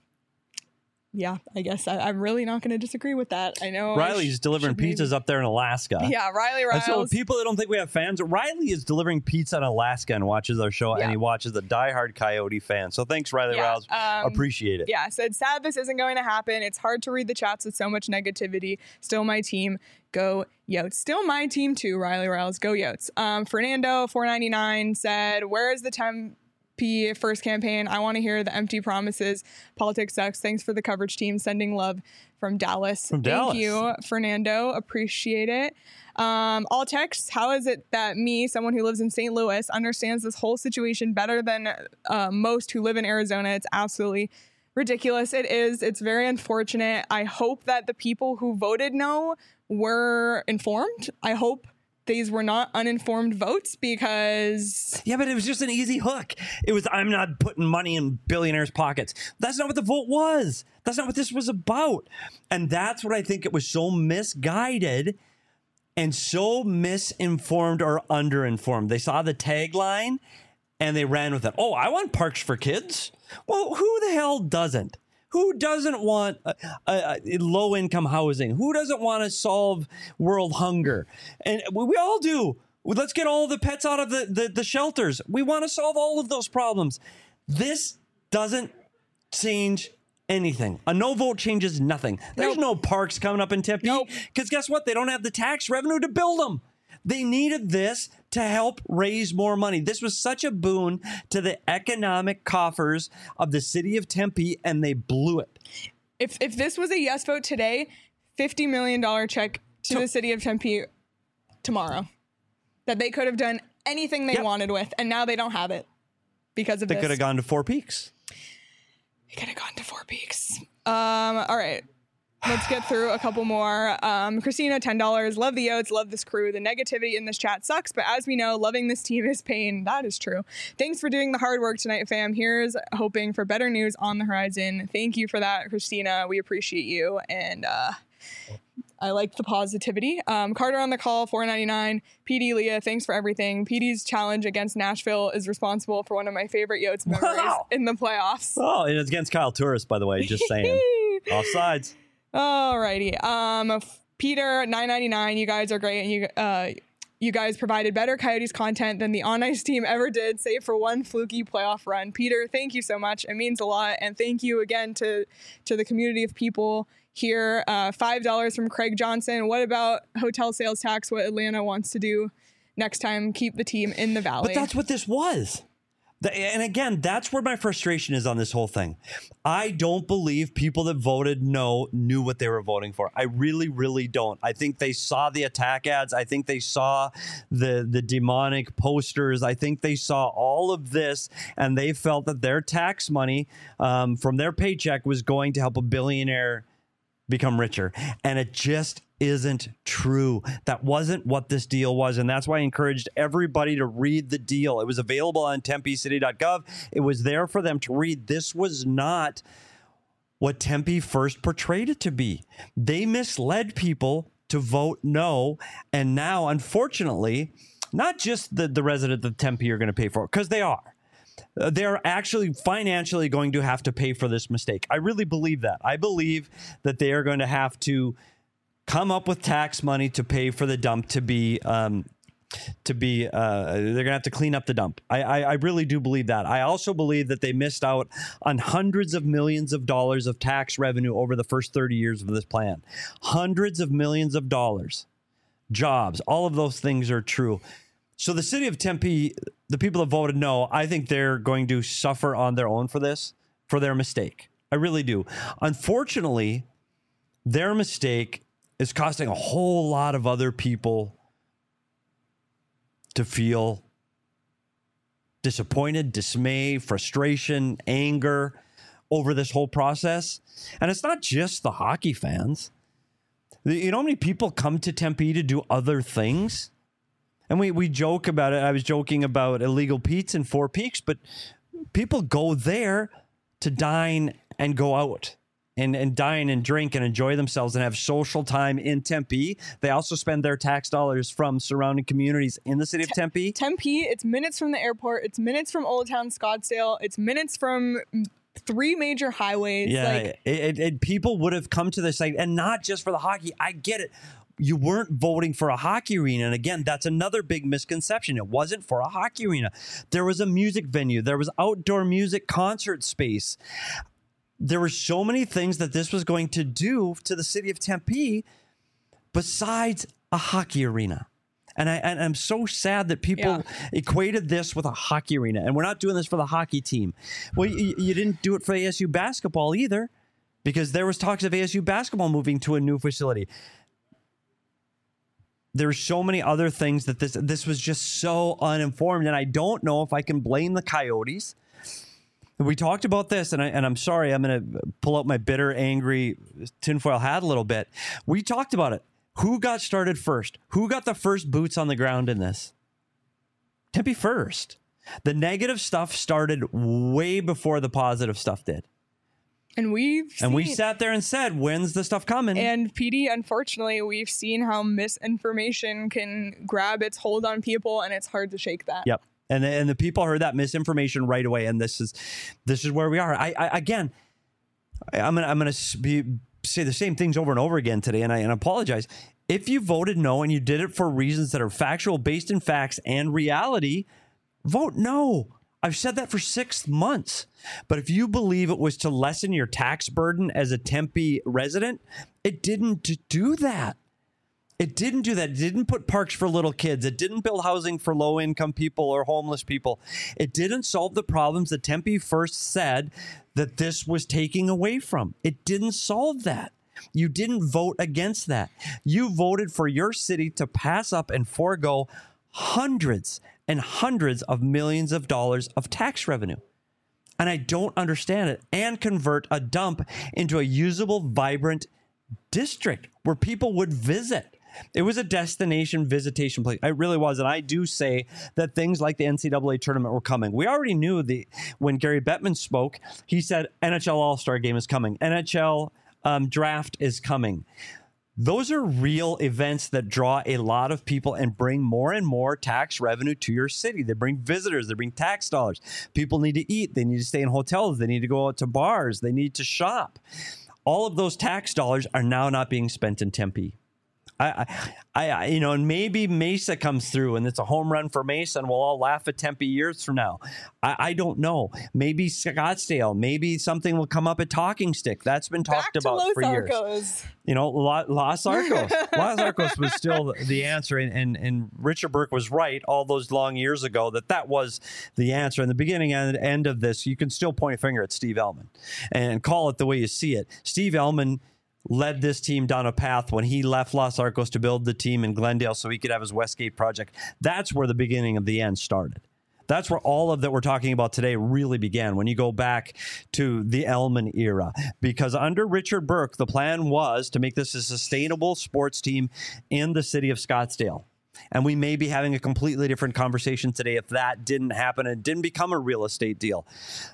yeah, I guess I, I'm really not going to disagree with that. I know Riley's I sh- delivering pizzas maybe. up there in Alaska. Yeah, Riley Riles. And so people that don't think we have fans, Riley is delivering pizza in Alaska and watches our show, Yeah. and he watches the diehard Coyote fan. So thanks, Riley Yeah, Riles. um, Appreciate it. Yeah, said, sad this isn't going to happen. It's hard to read the chats with so much negativity. Still my team. Go Yotes. Still my team too, Riley Riles. Go Yotes. Um, Fernando, four ninety-nine, said, where is the Tempe first campaign? I want to hear the empty promises. Politics sucks. Thanks for the coverage team. Sending love from Dallas. From Thank Dallas. you, Fernando. Appreciate it. Um, all texts, how is it that me, someone who lives in Saint Louis, understands this whole situation better than uh, most who live in Arizona? It's absolutely ridiculous. It is. It's very unfortunate. I hope that the people who voted no were informed. I hope these were not uninformed votes, because Yeah, but it was just an easy hook. It was, I'm not putting money in billionaires' pockets. That's not what the vote was. That's not what this was about. And that's what I think it was so misguided and so misinformed or underinformed. They saw the tagline and they ran with it. Oh, I want parks for kids. Well, who the hell doesn't? Who doesn't want uh, uh, low-income housing? Who doesn't want to solve world hunger? And we, we all do. Let's get all the pets out of the, the, the shelters. We want to solve all of those problems. This doesn't change anything. A no vote changes nothing. There's Nope. no parks coming up in Tempe. Nope. Because guess what? They don't have the tax revenue to build them. They needed this to help raise more money. This was such a boon to the economic coffers of the city of Tempe, and they blew it. if if this was a yes vote today, fifty million dollars check to To- the city of Tempe tomorrow, that they could have done anything they Yep. wanted with, and now they don't have it because of They this. could have gone to Four Peaks. They could have gone to Four Peaks. Um, all right. Let's get through a couple more. Um, Christina, ten dollars. Love the Yotes, love this crew. The negativity in this chat sucks, but as we know, loving this team is pain. That is true. Thanks for doing the hard work tonight, fam. Here's hoping for better news on the horizon. Thank you for that, Christina. We appreciate you. And uh, I like the positivity. Um, Carter on the call, four ninety-nine. P D Leah, thanks for everything. P D's challenge against Nashville is responsible for one of my favorite Yotes memories Wow. in the playoffs. Oh, and it's against Kyle Turris, by the way, just saying. Offsides. Alrighty. Um, f- Peter, nine ninety-nine. You guys are great, and you uh, you guys provided better Coyotes content than the On Ice team ever did, save for one fluky playoff run. Peter, thank you so much. It means a lot, and thank you again to to the community of people here. Uh, Five dollars from Craig Johnson. What about hotel sales tax? What Atlanta wants to do next time? Keep the team in the Valley. But that's what this was. The- And again, that's where my frustration is on this whole thing. I don't believe people that voted no knew what they were voting for. I really, really don't. I think they saw the attack ads. I think they saw the the demonic posters. I think they saw all of this, and they felt that their tax money um, from their paycheck was going to help a billionaire become richer. And it just isn't true. That wasn't what this deal was. And that's why I encouraged everybody to read the deal. It was available on tempe city dot gov. It was there for them to read. This was not what Tempe first portrayed it to be. They misled people to vote no. And now, unfortunately, not just the, the residents of Tempe are going to pay for it, because they are. Uh, they're actually financially going to have to pay for this mistake. I really believe that. I believe that they are going to have to come up with tax money to pay for the dump to be um, to be, uh, they're going to have to clean up the dump. I, I, I really do believe that. I also believe that they missed out on hundreds of millions of dollars of tax revenue over the first thirty years of this plan. Hundreds of millions of dollars, jobs, all of those things are true. So the city of Tempe, the people that voted no, I think they're going to suffer on their own for this, for their mistake. I really do. Unfortunately, their mistake is costing a whole lot of other people to feel disappointed, dismay, frustration, anger over this whole process. And it's not just the hockey fans. You know how many people come to Tempe to do other things? And we, we joke about it. I was joking about Illegal Pete's in Four Peaks, but people go there to dine and go out. And, and dine and drink and enjoy themselves and have social time in Tempe. They also spend their tax dollars from surrounding communities in the city of Tempe. Tempe, it's minutes from the airport. It's minutes from Old Town Scottsdale. It's minutes from three major highways. Yeah, like, it, it, it, people would have come to the site, and not just for the hockey. I get it. You weren't voting for a hockey arena. And again, that's another big misconception. It wasn't for a hockey arena. There was a music venue. There was outdoor music concert space. There were so many things that this was going to do to the city of Tempe besides a hockey arena. And, I, and I'm so sad that people yeah. equated this with a hockey arena. And we're not doing this for the hockey team. Well, you, you didn't do it for A S U basketball either, because there was talks of A S U basketball moving to a new facility. There's so many other things that this this was just so uninformed. And I don't know if I can blame the Coyotes. We talked about this, and, I, and I'm sorry, I'm going to pull out my bitter, angry tinfoil hat a little bit. We talked about it. Who got started first? Who got the first boots on the ground in this? Tempe first. The negative stuff started way before the positive stuff did. And we've and seen, we sat there and said, when's the stuff coming? And P D, unfortunately, we've seen how misinformation can grab its hold on people, and it's hard to shake that. Yep. And the, and the people heard that misinformation right away, and this is this is where we are. I, I again, I, I'm gonna I'm gonna be, say the same things over and over again today, and I and I apologize if you voted no and you did it for reasons that are factual, based in facts and reality. Vote no. I've said that for six months. But if you believe it was to lessen your tax burden as a Tempe resident, it didn't do that. It didn't do that. It didn't put parks for little kids. It didn't build housing for low-income people or homeless people. It didn't solve the problems that Tempe first said that this was taking away from. It didn't solve that. You didn't vote against that. You voted for your city to pass up and forego hundreds and hundreds of millions of dollars of tax revenue. And I don't understand it. And convert a dump into a usable, vibrant district where people would visit. It was a destination visitation place. It really was. And I do say that things like the N C double A tournament were coming. We already knew the when Gary Bettman spoke, he said N H L All-Star Game is coming. N H L um, Draft is coming. Those are real events that draw a lot of people and bring more and more tax revenue to your city. They bring visitors. They bring tax dollars. People need to eat. They need to stay in hotels. They need to go out to bars. They need to shop. All of those tax dollars are now not being spent in Tempe. I, I, I, you know, and maybe Mesa comes through and it's a home run for Mesa and we'll all laugh at Tempe years from now. I, I don't know. Maybe Scottsdale. Maybe something will come up at Talking Stick. That's been talked Back to about Los for Arcos. years. You know, Los Arcos. Los Arcos was still the answer. And, and, and Richard Burke was right all those long years ago that that was the answer. In the beginning and end of this, you can still point a finger at Steve Ellman and call it the way you see it. Steve Ellman led this team down a path when he left Los Arcos to build the team in Glendale so he could have his Westgate project. That's where the beginning of the end started. That's where all of that we're talking about today really began, when you go back to the Ellman era. Because under Richard Burke, the plan was to make this a sustainable sports team in the city of Scottsdale. And we may be having a completely different conversation today if that didn't happen and didn't become a real estate deal.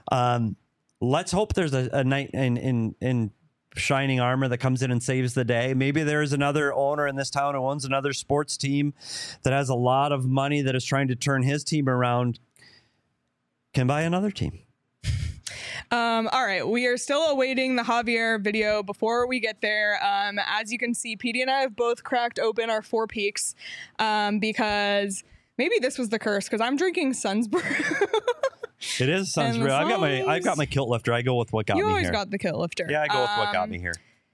Um, let's hope there's a, a night in in in shining armor that comes in and saves the day. Maybe there's another owner in this town who owns another sports team that has a lot of money that is trying to turn his team around, can buy another team. Um, all right, we are still awaiting the Javier video. Before we get there, um, as you can see, P D and I have both cracked open our Four Peaks um, because maybe this was the curse because I'm drinking Sun's Brew. It is Sun's Brew. I've got my I've got my kilt lifter. I go with what got you me always here. got the kilt lifter. Yeah, I go with what got Um, me here.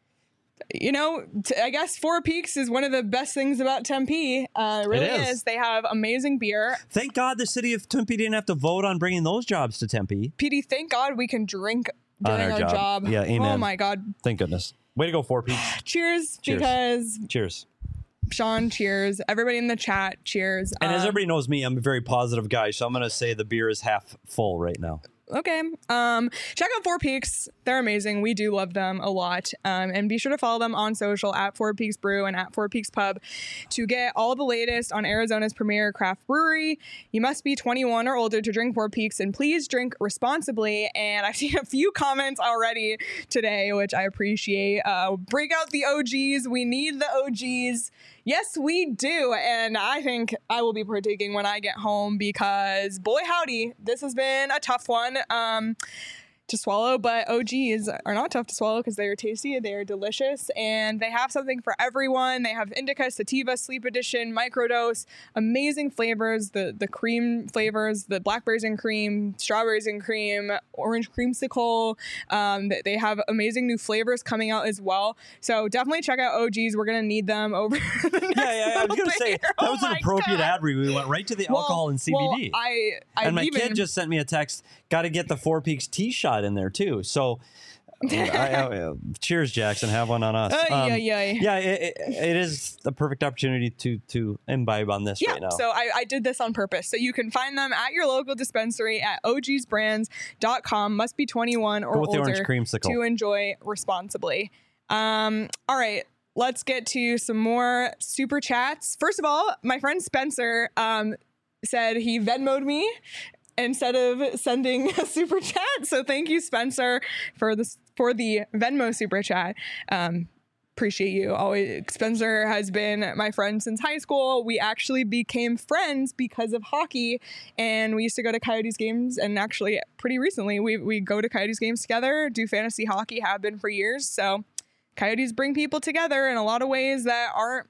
You know, t- I guess Four Peaks is one of the best things about Tempe. Uh, it really It is. is. They have amazing beer. Thank God the city of Tempe didn't have to vote on bringing those jobs to Tempe. P D, thank God we can drink On during our our, job. job. Yeah, amen. Oh my God. Thank goodness. Way to go, Four Peaks. Cheers, Cheers. because Cheers. Sean, cheers. Everybody in the chat, cheers. And as Um, everybody knows me, I'm a very positive guy, so I'm going to say the beer is half full right now. Okay. Um, check out Four Peaks. They're amazing. We do love them a lot. Um, and be sure to follow them on social at Four Peaks Brew and at Four Peaks Pub to get all the latest on Arizona's premier craft brewery. You must be twenty-one or older to drink Four Peaks, and please drink responsibly. And I've seen a few comments already today, which I appreciate. Uh, break out the O Gs. We need the O Gs. Yes, we do. And I think I will be partaking when I get home because, boy, howdy, this has been a tough one um, to swallow. But O Gs are not tough to swallow because they are tasty, they are delicious, and they have something for everyone. They have Indica, Sativa, Sleep Edition, Microdose, amazing flavors, the, the cream flavors, the blackberries and cream, strawberries and cream, orange creamsicle. Um, they- they have amazing new flavors coming out as well. So definitely check out O Gs. We're going to need them over the next Yeah, yeah, I was little going to bit say, here. that Oh was an my appropriate God. ad read. We went right to the Well- alcohol and C B D. Well, I, I and my even, kid just sent me a text, got to get the Four Peaks tea shot in there too. So I, I, I, cheers, Jackson. Have one on us. Ay, Um, ay, ay. Yeah, it, it, it is the perfect opportunity to to imbibe on this Yeah, right now. so I, I did this on purpose. So you can find them at your local dispensary at o g s brands dot com. Must be twenty-one or Go with the older orange creamsicle. to enjoy responsibly. Um, all right, let's get to some more super chats. First of all, my friend Spencer um, said he Venmo'd me instead of sending a super chat. So thank you, Spencer, for this for the Venmo super chat. Um, appreciate you. Always, Spencer has been my friend since high school. We actually became friends because of hockey, and we used to go to Coyotes games. And actually, pretty recently, we we go to Coyotes games together, do fantasy hockey, have been for years. So, Coyotes bring people together in a lot of ways that aren't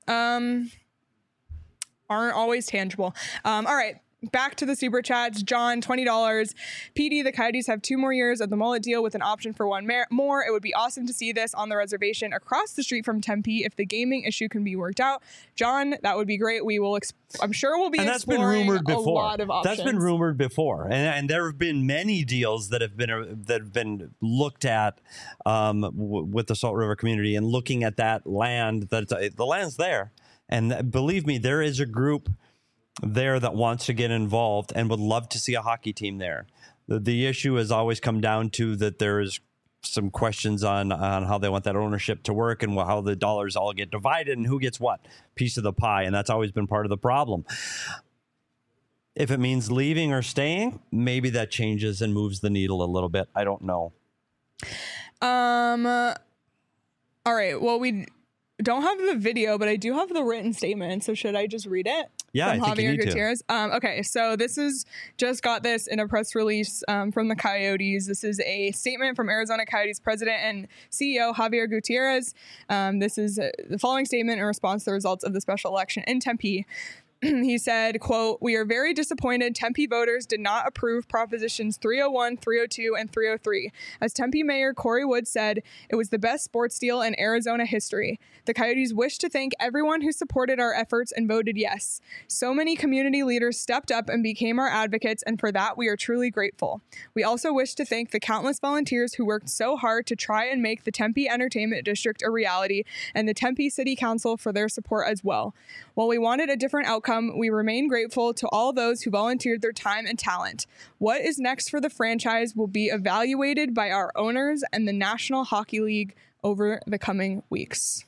um aren't always tangible. Um, all right. Back to the super chats. John, twenty dollars. P D, the Coyotes have two more years of the mullet deal with an option for one mer- more. It would be awesome to see this on the reservation across the street from Tempe if the gaming issue can be worked out. John, that would be great. We will, ex- I'm sure we'll be and that's been exploring rumored a before. lot of options. That's been rumored before, and, and there have been many deals that have been uh, that have been looked at um, w- with the Salt River community and looking at that land. That uh, the land's there, and believe me, there is a group there that wants to get involved and would love to see a hockey team there. The, the issue has always come down to that there is some questions on on how they want that ownership to work and how the dollars all get divided and who gets what piece of the pie, and that's always been part of the problem. If it means leaving or staying, maybe that changes and moves the needle a little bit. I don't know. Um. uh, all right. Well, we don't have the video, but I do have the written statement. So should I just read it? Yeah, From I think you Javier need to. Gutierrez. Um, okay, so this is just got this in a press release um, from the Coyotes. This is a statement from Arizona Coyotes president and C E O Javier Gutierrez. Um, this is uh, the following statement in response to the results of the special election in Tempe. He said, quote, "We are very disappointed Tempe voters did not approve Propositions three oh one, three oh two, and three oh three. As Tempe Mayor Corey Wood said, it was the best sports deal in Arizona history. The Coyotes wish to thank everyone who supported our efforts and voted yes. So many community leaders stepped up and became our advocates, and for that we are truly grateful. We also wish to thank the countless volunteers who worked so hard to try and make the Tempe Entertainment District a reality, and the Tempe City Council for their support as well. While we wanted a different outcome, we remain grateful to all those who volunteered their time and talent. What is next for the franchise will be evaluated by our owners and the National Hockey League over the coming weeks."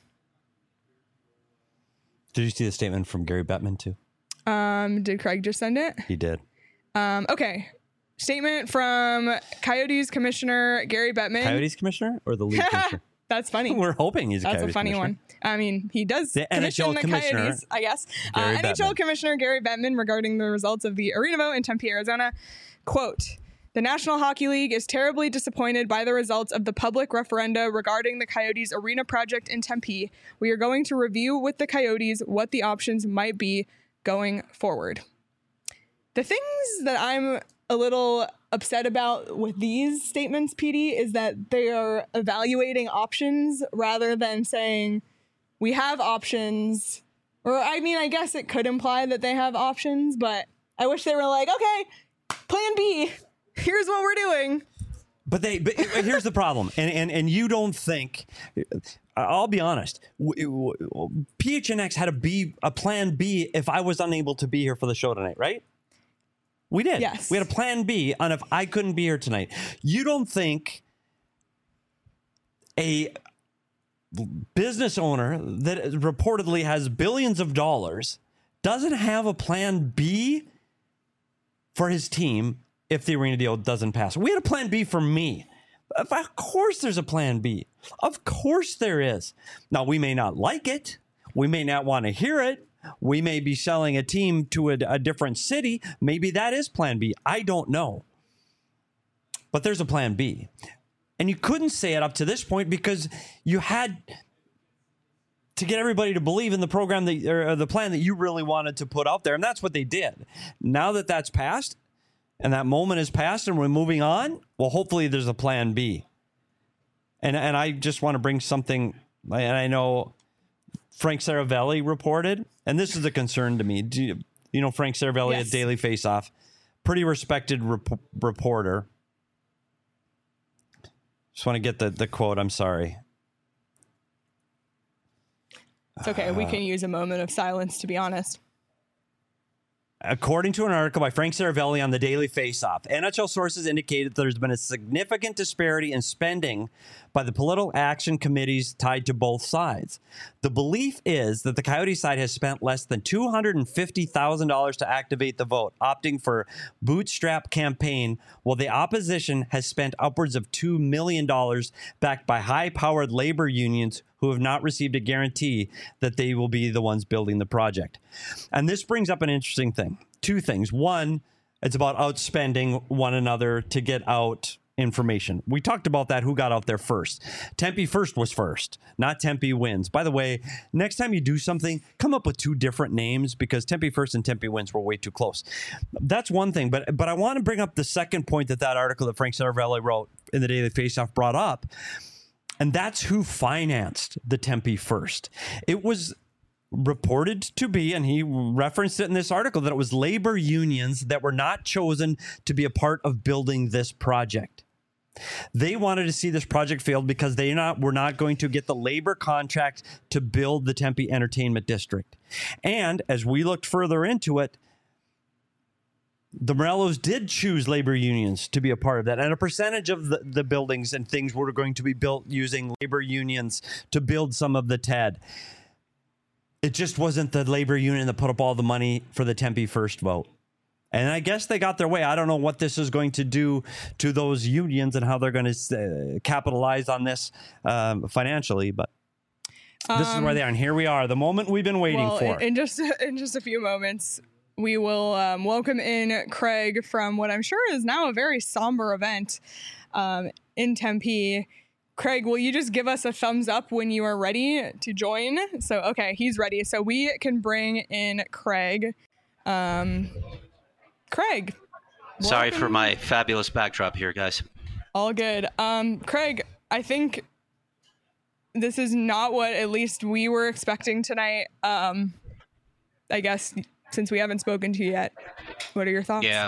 Did you see the statement from Gary Bettman too? Um, did Craig just send it? He did. Um, okay. Statement from Coyotes Commissioner Gary Bettman. Coyotes commissioner or the league commissioner? That's funny. We're hoping he's a That's Coyotes a funny commissioner. one. I mean, he does The commission N H L the commissioner, Coyotes, I guess. Uh, Gary N H L Bettman. Commissioner Gary Bettman regarding the results of the arena vote in Tempe, Arizona. Quote, The National Hockey League is terribly disappointed by the results of the public referenda regarding the Coyotes arena project in Tempe. We are going to review with the Coyotes what the options might be going forward. The things that I'm a little upset about with these statements, P D, is that they are evaluating options rather than saying we have options. Or, I mean, I guess it could imply that they have options, but I wish they were like, okay, plan B. Here's what we're doing. But they. But here's the problem, and and and you don't think. I'll be honest. P H N X had a B, a plan B if I was unable to be here for the show tonight, right? We did. Yes. We had a plan B on if I couldn't be here tonight. You don't think a business owner that reportedly has billions of dollars doesn't have a plan B for his team if the arena deal doesn't pass? We had a plan B for me. Of course there's a plan B. Of course there is. Now, we may not like it. We may not want to hear it. We may be selling a team to a, a different city. Maybe that is plan B. I don't know. But there's a plan B. And you couldn't say it up to this point because you had to get everybody to believe in the program that, or the plan that you really wanted to put out there. And that's what they did. Now that that's passed and that moment is passed and we're moving on, well, hopefully there's a plan B. And, and I just want to bring something, and I know Frank Saravelli reported, and this is a concern to me. Do you, you know Frank Saravelli Yes. at Daily Faceoff? Pretty respected rep- reporter. Just want to get the, the quote. I'm sorry. It's okay. We can use a moment of silence, to be honest. According to an article by Frank Saravelli on the Daily Faceoff, N H L sources indicated that there's been a significant disparity in spending by the political action committees tied to both sides. The belief is that the Coyote side has spent less than two hundred fifty thousand dollars to activate the vote, opting for bootstrap campaign, while the opposition has spent upwards of two million dollars backed by high-powered labor unions who have not received a guarantee that they will be the ones building the project. And this brings up an interesting thing. Two things. One, it's about outspending one another to get out information. We talked about that, who got out there first. Tempe first was first, not Tempe wins. By the way, next time you do something, come up with two different names because Tempe first and Tempe wins were way too close. That's one thing, but but I want to bring up the second point that that article that Frank Saravelli wrote in the Daily Faceoff brought up. And that's who financed the Tempe first. It was reported to be, and he referenced it in this article, that it was labor unions that were not chosen to be a part of building this project. They wanted to see this project failed because they not were not going to get the labor contract to build the Tempe Entertainment District. And as we looked further into it, the Morellos did choose labor unions to be a part of that. And a percentage of the, the buildings and things were going to be built using labor unions to build some of the T E D. It just wasn't the labor union that put up all the money for the Tempe first vote. And I guess they got their way. I don't know what this is going to do to those unions and how they're going to uh, capitalize on this um, financially, but this um, is where they are. And here we are, the moment we've been waiting well, for. In just, in just a few moments, we will um, welcome in Craig from what I'm sure is now a very somber event um, in Tempe. Craig, will you just give us a thumbs up when you are ready to join? So, okay, he's ready. So we can bring in Craig. Um, Craig. Sorry welcome. for my fabulous backdrop here, guys. All good. Um, Craig, I think this is not what at least we were expecting tonight. Um, I guess since we haven't spoken to you yet, what are your thoughts? Yeah.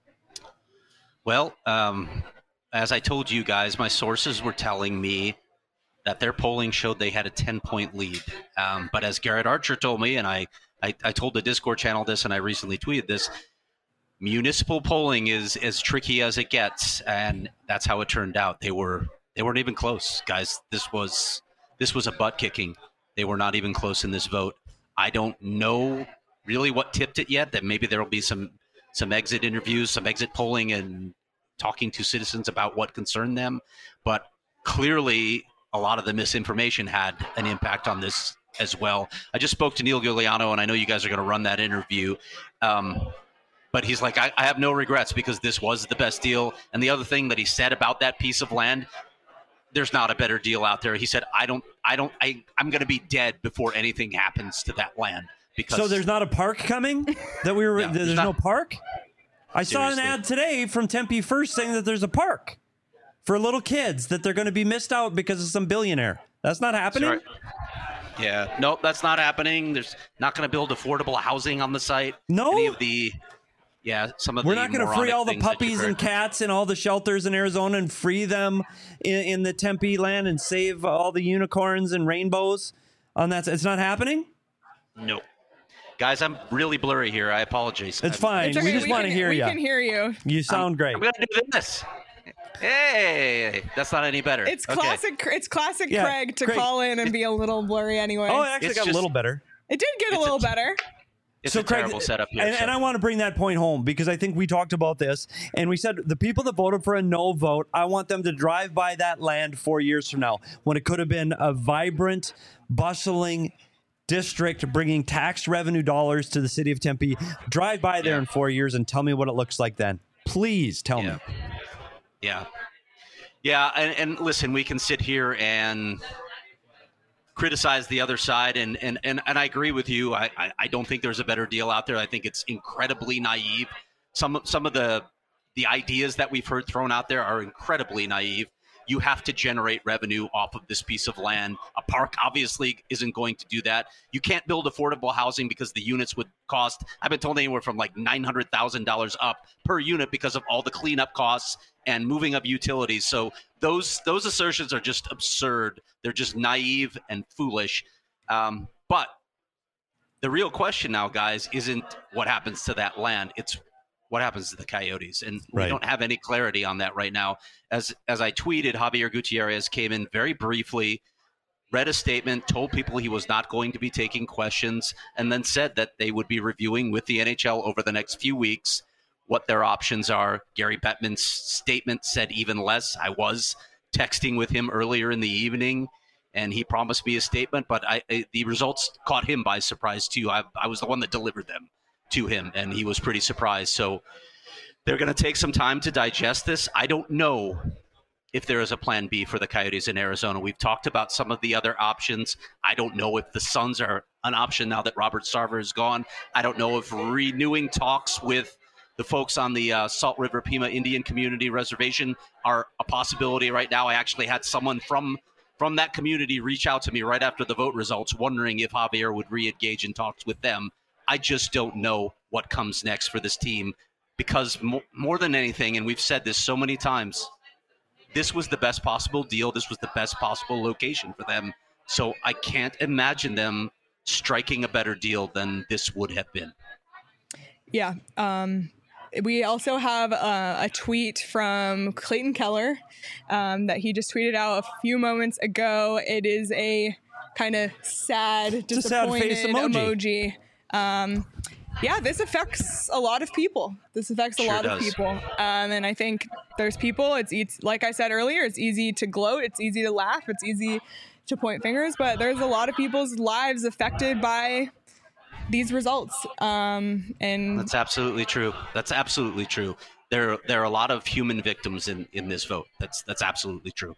Well, um, as I told you guys, my sources were telling me that their polling showed they had a ten-point lead. Um, but as Garrett Archer told me, and I, I, I told the Discord channel this, and I recently tweeted this, municipal polling is as tricky as it gets, and that's how it turned out. They were they weren't even close, guys. This was this was a butt kicking. They were not even close in this vote. I don't know really what tipped it yet. That maybe there will be some some exit interviews, some exit polling, and talking to citizens about what concerned them. But clearly, a lot of the misinformation had an impact on this as well. I just spoke to Neil Giuliano, and I know you guys are going to run that interview. Um, but he's like, I, I have no regrets because this was the best deal. And the other thing that he said about that piece of land, there's not a better deal out there. He said, I don't, I don't, I, I'm going to be dead before anything happens to that land. Because so there's not a park coming that we were, No, there's, there's no not. park. I saw an Seriously. ad today from Tempe First saying that there's a park for little kids that they're going to be missed out because of some billionaire. That's not happening. Sorry. Yeah, nope, that's not happening. There's not going to build affordable housing on the site. No? Any of the, yeah, some of We're the not going to free moronic all the things that puppies you've and heard. cats in all the shelters in Arizona and free them in, in the Tempe land and save all the unicorns and rainbows on that. It's not happening. Nope. Guys, I'm really blurry here. I apologize. It's I'm- fine. It's okay, We just want to can- hear we you. can hear you. You sound great. I'm going to do this. Hey, that's not any better. It's Okay. classic. It's classic Yeah, Craig to Craig. call in and be a little blurry anyway. Oh, it actually It's got just- a little better. it did get a it's a- little better. It's So, a Craig, terrible setup here. And, so- and I want to bring that point home because I think we talked about this and we said the people that voted for a no vote, I want them to drive by that land four years from now when it could have been a vibrant, bustling district bringing tax revenue dollars to the city of Tempe. Drive by there Yeah. in four years and tell me what it looks like then. Please tell Yeah. me. Yeah. Yeah, and, and listen, we can sit here and criticize the other side, and and, and, and I agree with you. I, I, I don't think there's a better deal out there. I think it's incredibly naive. Some some of the the ideas that we've heard thrown out there are incredibly naive. You have to generate revenue off of this piece of land. A park obviously isn't going to do that. You can't build affordable housing because the units would cost, I've been told, anywhere from like nine hundred thousand dollars up per unit because of all the cleanup costs and moving of utilities. So those those assertions are just absurd. They're just naive and foolish. Um, but the real question now, guys, isn't what happens to that land. It's what happens to the Coyotes. And we Right. don't have any clarity on that right now. As as I tweeted, Javier Gutierrez came in very briefly, read a statement, told people he was not going to be taking questions, and then said that they would be reviewing with the N H L over the next few weeks what their options are. Gary Bettman's statement said even less. I was texting with him earlier in the evening, and he promised me a statement, but I, I, the results caught him by surprise, too. I, I was the one that delivered them to him, and he was pretty surprised. So they're going to take some time to digest this. I don't know if there is a plan B for the Coyotes in Arizona. We've talked about some of the other options. I don't know if the Suns are an option now that Robert Sarver is gone. I don't know if renewing talks with the folks on the uh, Salt River Pima Indian Community Reservation are a possibility right now. I actually had someone from from that community reach out to me right after the vote results, wondering if Javier would re-engage in talks with them. I just don't know what comes next for this team because mo- more than anything, and we've said this so many times, this was the best possible deal. This was the best possible location for them. So I can't imagine them striking a better deal than this would have been. Yeah. Um, we also have uh, a tweet from Clayton Keller um, that he just tweeted out a few moments ago. It is a kind of sad, a sad disappointed face emoji. emoji. Um, yeah, this affects a lot of people. This affects a Sure lot of does. people. Um, and I think there's people, it's, it's like I said earlier, it's easy to gloat. It's easy to laugh. It's easy to point fingers, but there's a lot of people's lives affected by these results. Um, and That's absolutely true. That's absolutely true. There, there are a lot of human victims in, in this vote. That's that's absolutely true.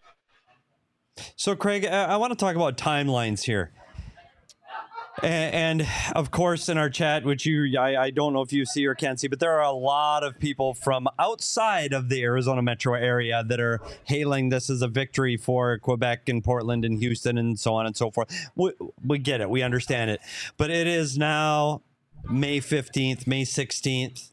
So, Craig, I, I want to talk about timelines here. And, and of course, in our chat, which you, I, I don't know if you see or can't see, but there are a lot of people from outside of the Arizona metro area that are hailing this as a victory for Quebec and Portland and Houston and so on and so forth. We, we get it. We understand it. But it is now May fifteenth, May sixteenth.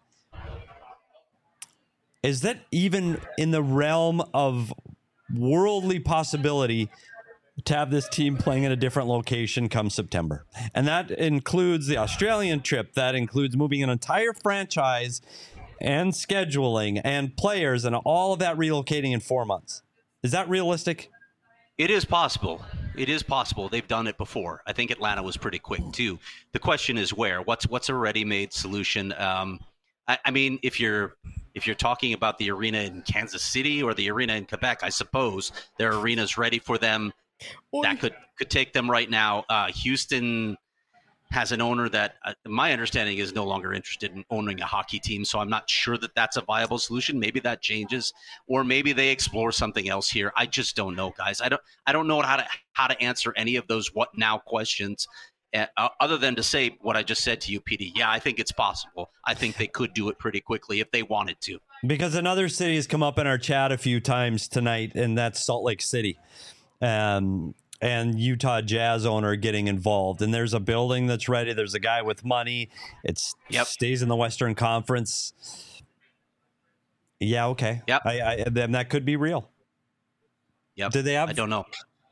Is that even in the realm of worldly possibility to have this team playing in a different location come September? And that includes the Australian trip. That includes moving an entire franchise and scheduling and players and all of that relocating in four months. Is that realistic? It is possible. It is possible. They've done it before. I think Atlanta was pretty quick too. The question is where. What's what's a ready-made solution? Um, I, I mean, if you're if you're talking about the arena in Kansas City or the arena in Quebec, I suppose their arena's ready for them. That could could take them right now. Uh, Houston, has an owner that, uh, my understanding, is no longer interested in owning a hockey team. So I'm not sure that that's a viable solution. Maybe that changes, or maybe they explore something else here. I just don't know, guys. I don't I don't know how to how to answer any of those what now questions. Uh, other than to say what I just said to you, P D. Yeah, I think it's possible. I think they could do it pretty quickly if they wanted to. Because another city has come up in our chat a few times tonight, and that's Salt Lake City. Um, and Utah Jazz owner getting involved. And there's a building that's ready. There's a guy with money. It yep. stays in the Western Conference. Yeah, okay. Yep. I, I, then that could be real. Yep. Do they have? I don't know.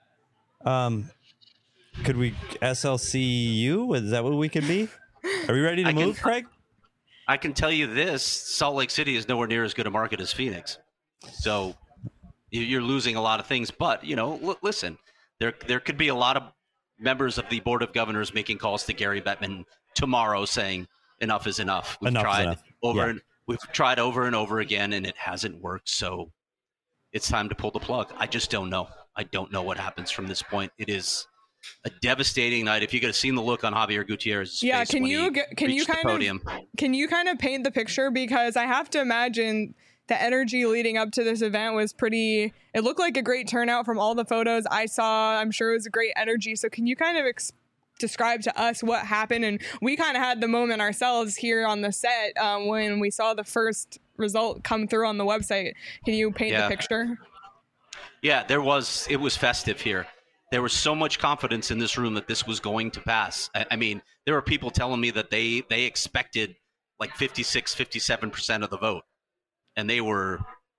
Um, could we S L C U? Is that what we could be? Are we ready to I move, can, Craig? I can tell you this: Salt Lake City is nowhere near as good a market as Phoenix. So you're losing a lot of things. But you know, l- listen, there there could be a lot of members of the Board of Governors making calls to Gary Bettman tomorrow, saying enough is enough. We've enough tried is enough. over Yeah. and we've tried over and over again, and it hasn't worked. So it's time to pull the plug. I just don't know. I don't know what happens from this point. It is a devastating night. If you could have seen the look on Javier Gutierrez's Yeah, face can when you he get- can you reached the kind of- podium. Can you kind of paint the picture? Because I have to imagine the energy leading up to this event was pretty, it looked like a great turnout from all the photos I saw. I'm sure it was a great energy. So can you kind of ex- describe to us what happened? And we kind of had the moment ourselves here on the set um, when we saw the first result come through on the website. Can you paint Yeah. the picture? Yeah, there was, it was festive here. There was so much confidence in this room that this was going to pass. I, I mean, there were people telling me that they, they expected like fifty-six, fifty-seven percent of the vote. And they were,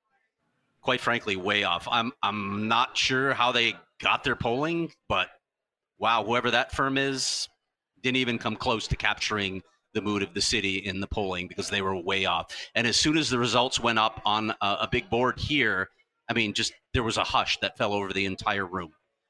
quite frankly, way off. I'm I'm not sure how they got their polling, but wow, whoever that firm is didn't even come close to capturing the mood of the city in the polling because they were way off. And as soon as the results went up on a, a big board here, I mean, just there was a hush that fell over the entire room.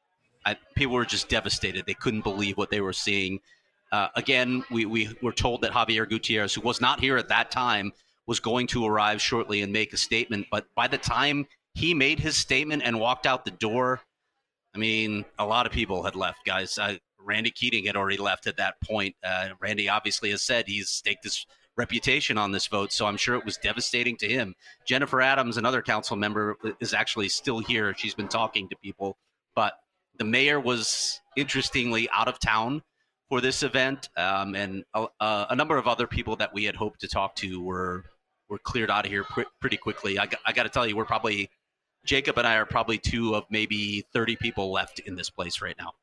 I, people were just devastated. They couldn't believe what they were seeing. Uh, again, we, we were told that Javier Gutierrez, who was not here at that time, was going to arrive shortly and make a statement. But by the time he made his statement and walked out the door, I mean, a lot of people had left, guys. Uh, Randy Keating had already left at that point. Uh, Randy obviously has said he's staked his reputation on this vote, so I'm sure it was devastating to him. Jennifer Adams, another council member, is actually still here. She's been talking to people. But the mayor was, interestingly, out of town for this event, um, and a, a number of other people that we had hoped to talk to were were cleared out of here pr- pretty quickly. I, I got to tell you, we're probably, Jacob and I are probably two of maybe thirty people left in this place right now.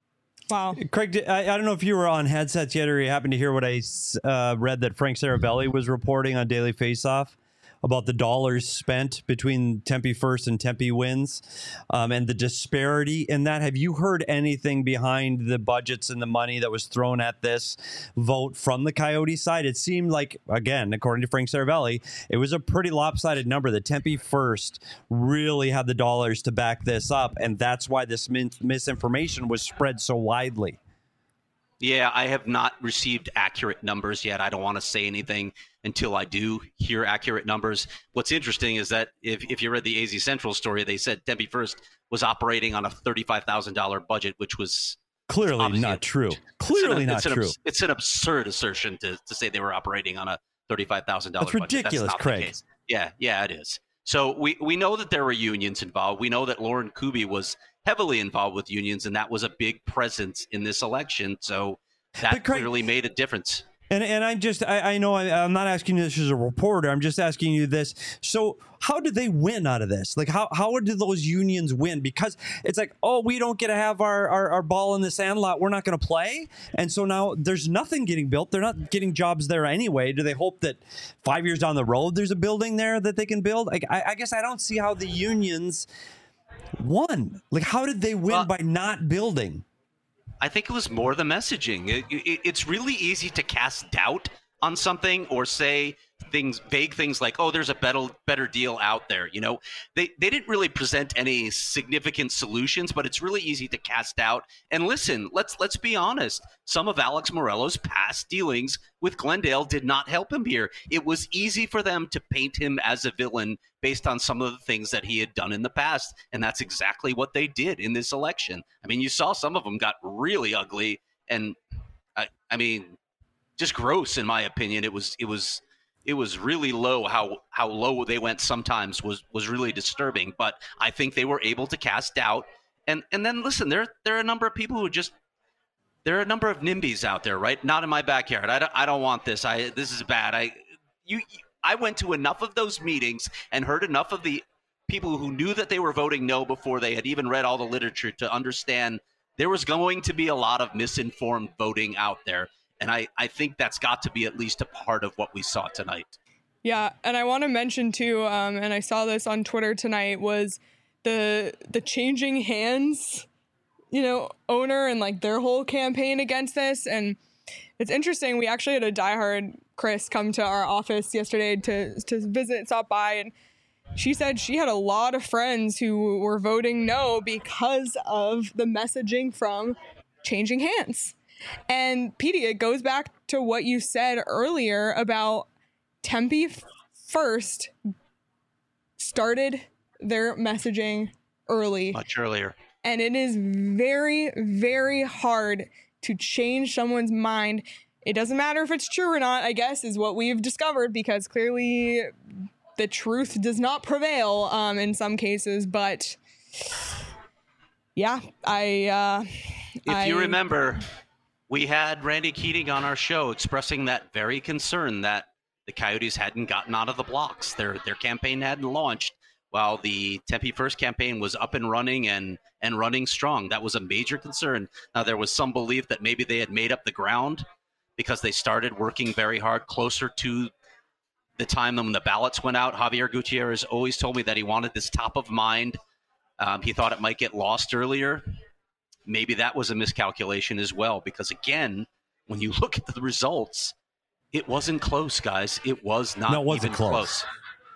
Wow. Craig, I, I don't know if you were on headsets yet or you happened to hear what I uh, read that Frank Saravelli was reporting on Daily Faceoff about the dollars spent between Tempe First and Tempe Wins um, and the disparity in that. Have you heard anything behind the budgets and the money that was thrown at this vote from the Coyote side? It seemed like, again, according to Frank Saravelli, it was a pretty lopsided number. The Tempe First really had the dollars to back this up, and that's why this min- misinformation was spread so widely. Yeah, I have not received accurate numbers yet. I don't want to say anything until I do hear accurate numbers. What's interesting is that if, if you read the A Z Central story, they said Tempe First was operating on a thirty-five thousand dollars budget, which was clearly not true. Clearly it's an, not it's an, true. It's an absurd assertion to, to say they were operating on a thirty-five thousand dollars That's budget. ridiculous, That's not Craig. the case. Yeah, yeah, it is. So we, we know that there were unions involved. We know that Lauren Kuby was heavily involved with unions, and that was a big presence in this election. So that But Craig, clearly made a difference. And and I'm just, I, I know I, I'm not asking you this as a reporter. I'm just asking you this. So how did they win out of this? Like, how, how did those unions win? Because it's like, oh, we don't get to have our, our, our ball in the sand lot. We're not going to play. And so now there's nothing getting built. They're not getting jobs there anyway. Do they hope that five years down the road there's a building there that they can build? Like, I, I guess I don't see how the unions won. Like, how did they win Well, by not building? I think it was more the messaging. It, it, it's really easy to cast doubt on something or say things, vague things like, "Oh, there's a better better deal out there." You know, they they didn't really present any significant solutions, but it's really easy to cast doubt. And listen, let's let's be honest. Some of Alex Morello's past dealings with Glendale did not help him here. It was easy for them to paint him as a villain based on some of the things that he had done in the past, and that's exactly what they did in this election. I mean, you saw some of them got really ugly, and I, I mean, just gross in my opinion. It was it was it was really low. How how low they went sometimes was was really disturbing. But I think they were able to cast doubt. And and then listen, there there are a number of people who just there are a number of NIMBYs out there, right? Not in my backyard. I don't I don't want this. I this is bad. I you I went to enough of those meetings and heard enough of the people who knew that they were voting no before they had even read all the literature to understand there was going to be a lot of misinformed voting out there. And I, I think that's got to be at least a part of what we saw tonight. Yeah, and I want to mention too, um, and I saw this on Twitter tonight, was the the changing hands, you know, owner and like their whole campaign against this. And it's interesting. We actually had a diehard Chris come to our office yesterday to to visit, stop by, and she said she had a lot of friends who were voting no because of the messaging from changing hands. And Petey, it goes back to what you said earlier about Tempe First started their messaging early. Much earlier. And it is very, very hard to change someone's mind. It doesn't matter if it's true or not, I guess, is what we've discovered, because clearly the truth does not prevail um, in some cases. But yeah, I... Uh, if I, you remember... We had Randy Keating on our show expressing that very concern that the Coyotes hadn't gotten out of the blocks. Their their campaign hadn't launched while the Tempe First campaign was up and running and, and running strong. That was a major concern. Now, there was some belief that maybe they had made up the ground because they started working very hard closer to the time when the ballots went out. Javier Gutierrez always told me that he wanted this top of mind. Um, he thought it might get lost earlier. Maybe that was a miscalculation as well, because again, when you look at the results, it wasn't close, guys. It was not no, it wasn't even close. close.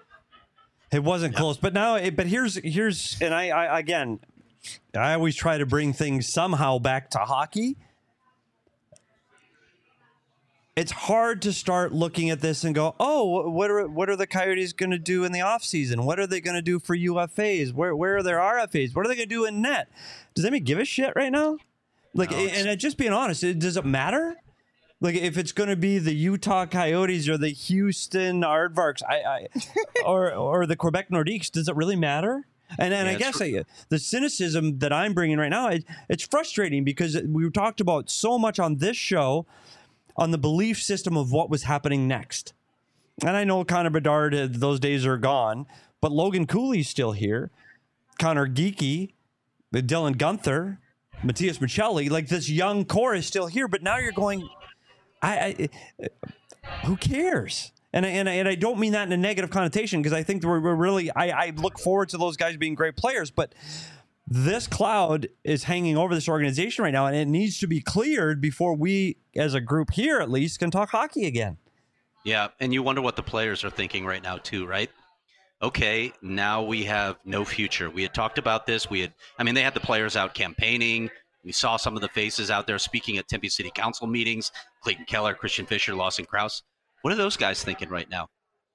It wasn't Yep. close. But now, but here's here's, and I, I again, I always try to bring things somehow back to hockey. It's hard to start looking at this and go, oh, what are what are the Coyotes going to do in the offseason? What are they going to do for U F As? Where where are their R F As? What are they going to do in net? Does anybody give a shit right now? Like, No, and just being honest, it, does it matter? Like, if it's going to be the Utah Coyotes or the Houston Aardvarks, I, I or or the Quebec Nordiques, does it really matter? And and Yeah, I guess it's- I, the cynicism that I'm bringing right now, it, it's frustrating because we talked about so much on this show on the belief system of what was happening next. And I know Connor Bedard, uh, those days are gone, but Logan Cooley's still here. Connor Geeky, Dylan Gunther, Matthias Michelli, like this young core is still here, but now you're going, I, I who cares? And I, and I, and I don't mean that in a negative connotation, because I think we're, we're really, I, I look forward to those guys being great players, but this cloud is hanging over this organization right now, and it needs to be cleared before we, as a group here at least, can talk hockey again. Yeah, and you wonder what the players are thinking right now too, right? Okay, now we have no future. We had talked about this. We had, I mean, they had the players out campaigning. We saw some of the faces out there speaking at Tempe City Council meetings. Clayton Keller, Christian Fisher, Lawson Krause. What are those guys thinking right now?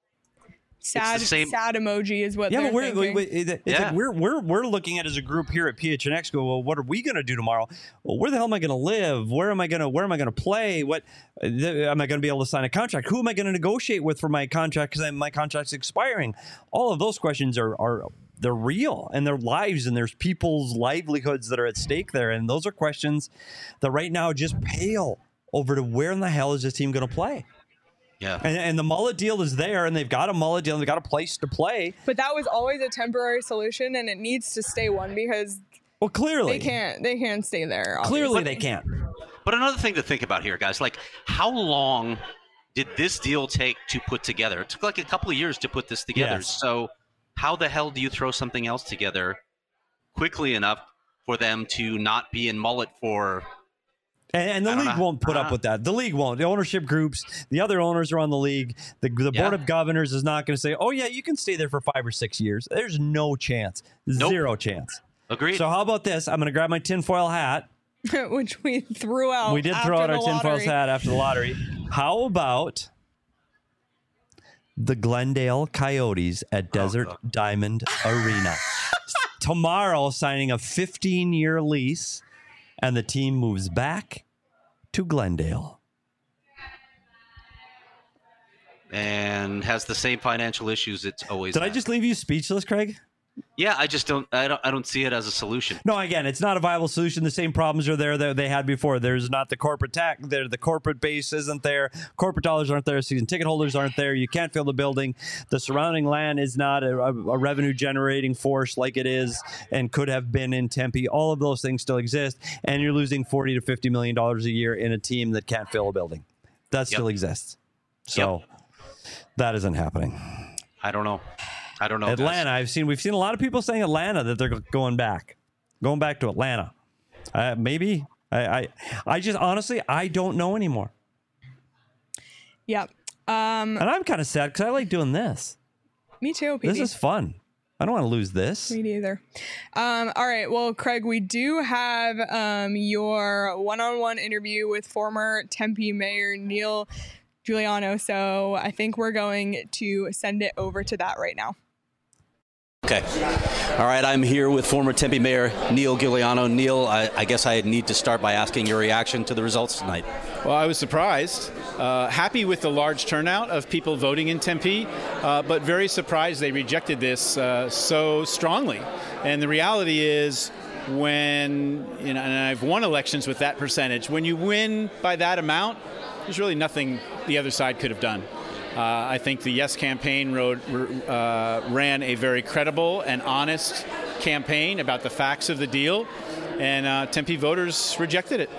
sad, same- sad emoji is what Yeah, they're but we're, thinking. we, we- it's Yeah. like we're we're we're looking at as a group here at P H N X. Go, well, what are we going to do tomorrow? Well, where the hell am I going to live? Where am I going to where am I going to play? What uh, th- am I going to be able to sign a contract? Who am I going to negotiate with for my contract because my contract's expiring? All of those questions are are they're real, and their lives, and there's people's livelihoods that are at stake there, and those are questions that right now just pale over to where in the hell is this team going to play? Yeah. And, and the mullet deal is there, and they've got a mullet deal, and they've got a place to play. But that was always a temporary solution, and it needs to stay one, because Well, clearly, they can't they can't stay there. Clearly, obviously. they can't. But another thing to think about here, guys, like how long did this deal take to put together? It took like a couple of years to put this together. Yes. So how the hell do you throw something else together quickly enough for them to not be in mullet for... And, and the I don't league know. won't put I up don't with that. The league won't. The ownership groups, the other owners are on the league. The, the Yeah. board of governors is not going to say, oh, yeah, you can stay there for five or six years. There's no chance. Nope. Zero chance. Agreed. So how about this? I'm going to grab my tinfoil hat. which we threw out. We did after throw out the our tinfoil lottery. hat after the lottery. How about the Glendale Coyotes at Desert God. Diamond Arena? Tomorrow, signing a fifteen-year lease, and the team moves back to Glendale. And has the same financial issues it's always Did had. I just leave you speechless, Craig? Yeah, I just don't I don't I don't see it as a solution. No, again, it's not a viable solution. The same problems are there that they had before. There's not the corporate tax. There, the corporate base isn't there. Corporate dollars aren't there. Season ticket holders aren't there. You can't fill the building. The surrounding land is not a, a, a revenue generating force like it is and could have been in Tempe. All of those things still exist, and you're losing forty to fifty million dollars a year in a team that can't fill a building. That Yep. still exists. So Yep. that isn't happening. I don't know. I don't know. guys. Atlanta, I've seen. We've seen a lot of people saying Atlanta that they're going back, going back to Atlanta. Uh, maybe I, I, I just honestly I don't know anymore, Yep. Um, and I'm kind of sad because I like doing this. me too, P D. This is fun. I don't want to lose this. Me neither. Um, all right. Well, Craig, we do have um, your one-on-one interview with former Tempe Mayor Neil Giuliano. So I think we're going to send it over to that right now. Okay. All right, I'm here with former Tempe Mayor Neil Giuliano. Neil, I, I guess I need to start by asking your reaction to the results tonight. Well, I was surprised, uh, happy with the large turnout of people voting in Tempe, uh, but very surprised they rejected this uh, so strongly. And the reality is, when, you know, and I've won elections with that percentage, when you win by that amount, there's really nothing the other side could have done. Uh, I think the Yes campaign wrote, uh, ran a very credible and honest campaign about the facts of the deal, and uh, Tempe voters rejected it.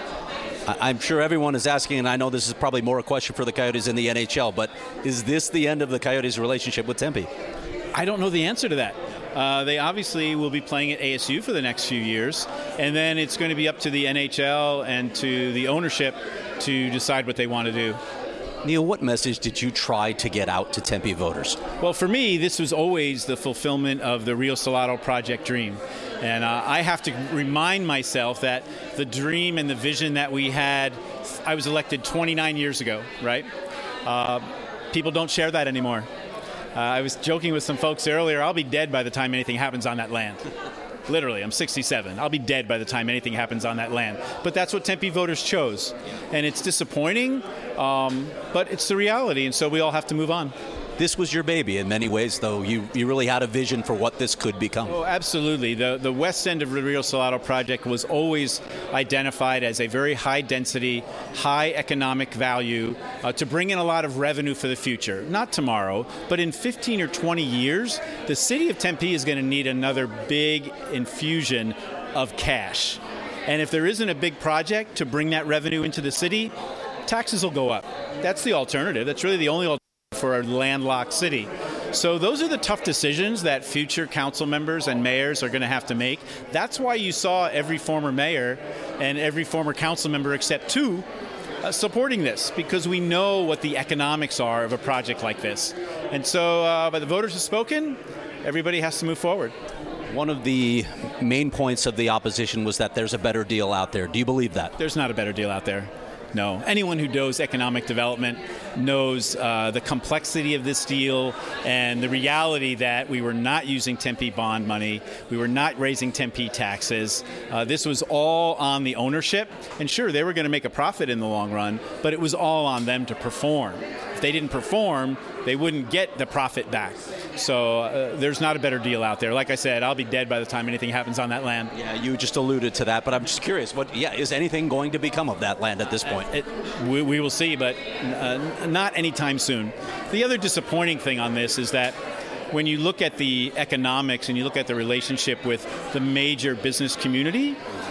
I'm sure everyone is asking, and I know this is probably more a question for the Coyotes in the N H L, but is this the end of the Coyotes' relationship with Tempe? I don't know the answer to that. Uh, they obviously will be playing at A S U for the next few years, and then it's going to be up to the N H L and to the ownership to decide what they want to do. Neil, what message did you try to get out to Tempe voters? Well, for me, this was always the fulfillment of the Rio Salado project dream. And uh, I have to remind myself that the dream and the vision that we had, I was elected twenty-nine years ago, right? Uh, people don't share that anymore. Uh, I was joking with some folks earlier, I'll be dead by the time anything happens on that land. Literally, I'm sixty-seven. I'll be dead by the time anything happens on that land. But that's what Tempe voters chose. And it's disappointing, um, but it's the reality, and so we all have to move on. This was your baby in many ways, though. You you really had a vision for what this could become. Oh, absolutely. The the west end of the Rio Salado project was always identified as a very high density, high economic value uh, to bring in a lot of revenue for the future. Not tomorrow, but in fifteen or twenty years, the city of Tempe is going to need another big infusion of cash. And if there isn't a big project to bring that revenue into the city, taxes will go up. That's the alternative. That's really the only alternative for a landlocked city. So those are the tough decisions that future council members and mayors are going to have to make. That's why you saw every former mayor and every former council member except two uh, supporting this, because we know what the economics are of a project like this. And so uh, but the voters have spoken, everybody has to move forward. One of the main points of the opposition was that there's a better deal out there. Do you believe that? There's not a better deal out there. No. Anyone who knows economic development knows uh, the complexity of this deal and the reality that we were not using Tempe bond money. We were not raising Tempe taxes. Uh, this was all on the ownership. And sure, they were going to make a profit in the long run, but it was all on them to perform. If they didn't perform, they wouldn't get the profit back. So uh, there's not a better deal out there. Like I said, I'll be dead by the time anything happens on that land. Yeah, you just alluded to that, but I'm just curious. What? Yeah, is anything going to become of that land at this point? It, we, we will see, but uh, not anytime soon. The other disappointing thing on this is that when you look at the economics and you look at the relationship with the major business community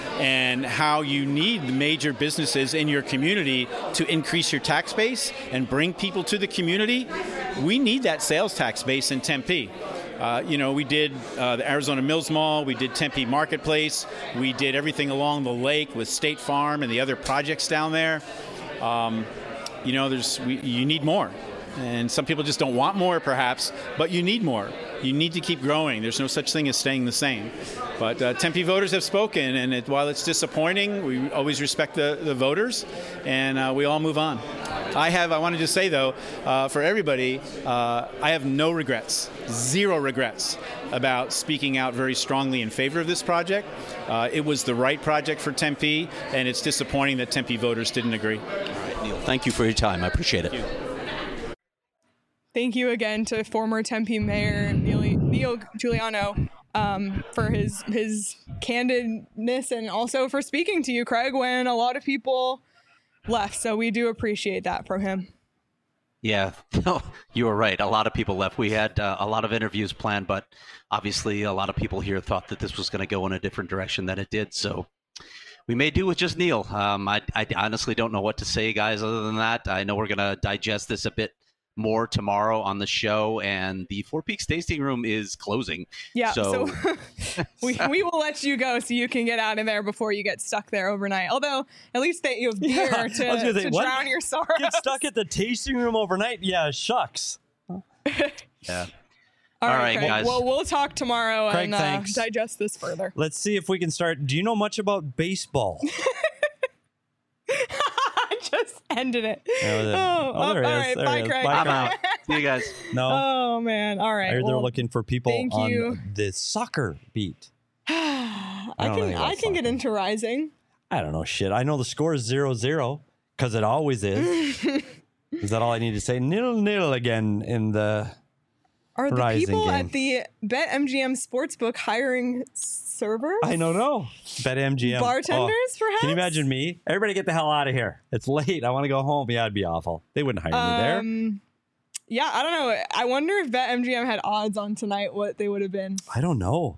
and how you need major businesses in your community to increase your tax base and bring people to the community, we need that sales tax base in Tempe. Uh, you know, we did uh, the Arizona Mills Mall, we did Tempe Marketplace, we did everything along the lake with State Farm and the other projects down there. Um, you know, there's we, you need more. And some people just don't want more, perhaps, but you need more. You need to keep growing. There's no such thing as staying the same. But uh, Tempe voters have spoken, and it, while it's disappointing, we always respect the, the voters, and uh, we all move on. I have. I want to just say though, uh, for everybody, uh, I have no regrets, zero regrets about speaking out very strongly in favor of this project. Uh, it was the right project for Tempe, and it's disappointing that Tempe voters didn't agree. All right, Neil, thank you for your time. I appreciate it. Thank you. Thank you again to former Tempe Mayor Neil, Neil Giuliano um, for his his candidness and also for speaking to you, Craig, when a lot of people left. So we do appreciate that from him. Yeah, no, you were right. A lot of people left. We had uh, a lot of interviews planned, but obviously a lot of people here thought that this was going to go in a different direction than it did. So we may do with just Neil. Um, I, I honestly don't know what to say, guys, other than that. I know we're going to digest this a bit more tomorrow on the show, and the Four Peaks tasting room is closing. Yeah, so, so we, we will let you go so you can get out of there before you get stuck there overnight. Although, at least that you have beer Yeah, to, I was gonna to say, what? drown your sorrows. Get stuck at the tasting room overnight? Yeah, shucks. yeah. All, All right, right, Craig. guys. Well, we'll talk tomorrow Craig, and uh, thanks. digest this further. Let's see if we can start. Do you know much about baseball? I just ended it. Yeah, there- oh, oh, there all it is. right. There Bye, it is. Craig. Bye, I'm Craig. out. See you guys. No. Oh, man. All right. I heard they're well, looking for people thank on you. the soccer beat. I, I don't can think I that's can get soccer. into Rising. I don't know shit. I know the score is zero zero because it always is. Is that all I need to say? Nil nil again in the. Are the Rising people game. at the BetMGM Sportsbook hiring servers? I don't know. BetMGM. Bartenders, Oh, perhaps? Can you imagine me? Everybody get the hell out of here. It's late. I want to go home. Yeah, it'd be awful. They wouldn't hire me there. Um, yeah, I don't know. I wonder if BetMGM had odds on tonight, what they would have been. I don't know.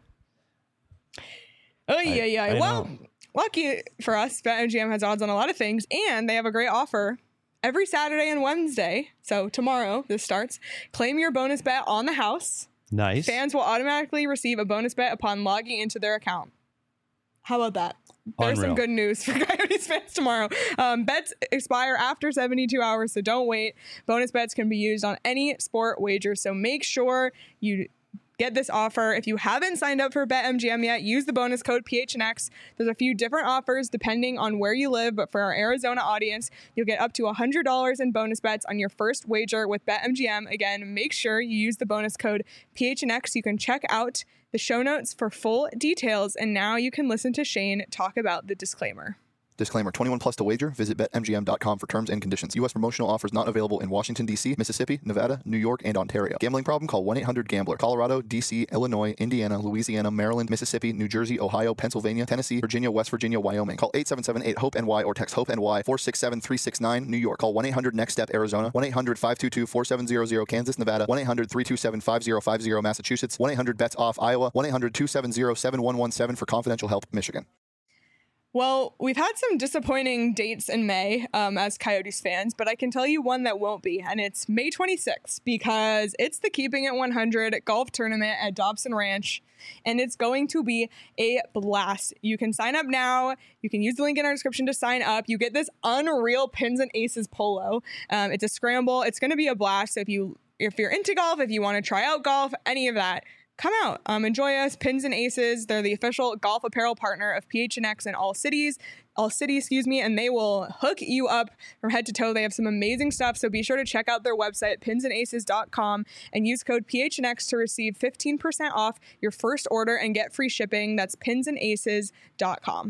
Oh, yeah, yeah. I Well, know. lucky for us, BetMGM has odds on a lot of things, and they have a great offer. Every Saturday and Wednesday, so tomorrow this starts, claim your bonus bet on the house. Nice. Fans will automatically receive a bonus bet upon logging into their account. How about that? There's Unreal. some good news for Coyotes fans tomorrow. Um, bets expire after seventy-two hours, so don't wait. Bonus bets can be used on any sport wager, so make sure you get this offer. If you haven't signed up for BetMGM yet, use the bonus code P H N X. There's a few different offers depending on where you live, but for our Arizona audience, you'll get up to one hundred dollars in bonus bets on your first wager with BetMGM. Again, make sure you use the bonus code P H N X. You can check out the show notes for full details, and now you can listen to Shane talk about the disclaimer. Disclaimer, twenty-one plus to wager. Visit bet M G M dot com for terms and conditions. U S promotional offers not available in Washington, D C, Mississippi, Nevada, New York, and Ontario. Gambling problem? Call one eight hundred gambler. Colorado, D C, Illinois, Indiana, Louisiana, Maryland, Mississippi, New Jersey, Ohio, Pennsylvania, Tennessee, Virginia, West Virginia, Wyoming. Call eight seven seven eight hope N Y or text HOPE-NY four six seven three six nine. New York. Call one eight hundred next step Arizona. one eight hundred five two two four seven zero zero. Kansas, Nevada. one eight hundred three two seven five zero five zero. Massachusetts. one eight hundred bets off Iowa. one eight hundred two seven zero seven one one seven for confidential help, Michigan. Well, we've had some disappointing dates in May um, as Coyotes fans, but I can tell you one that won't be, and it's May twenty-sixth because it's the Keeping It one hundred golf tournament at Dobson Ranch, and it's going to be a blast. You can sign up now. You can use the link in our description to sign up. You get this unreal Pins and Aces polo. Um, it's a scramble. It's going to be a blast. So if you if you're into golf, if you want to try out golf, any of that, come out, um, enjoy us. Pins and Aces, they're the official golf apparel partner of P H N X in all cities, all cities, excuse me, and they will hook you up from head to toe. They have some amazing stuff, so be sure to check out their website, pins and aces dot com, and use code P H N X to receive fifteen percent off your first order and get free shipping. That's pins and aces dot com.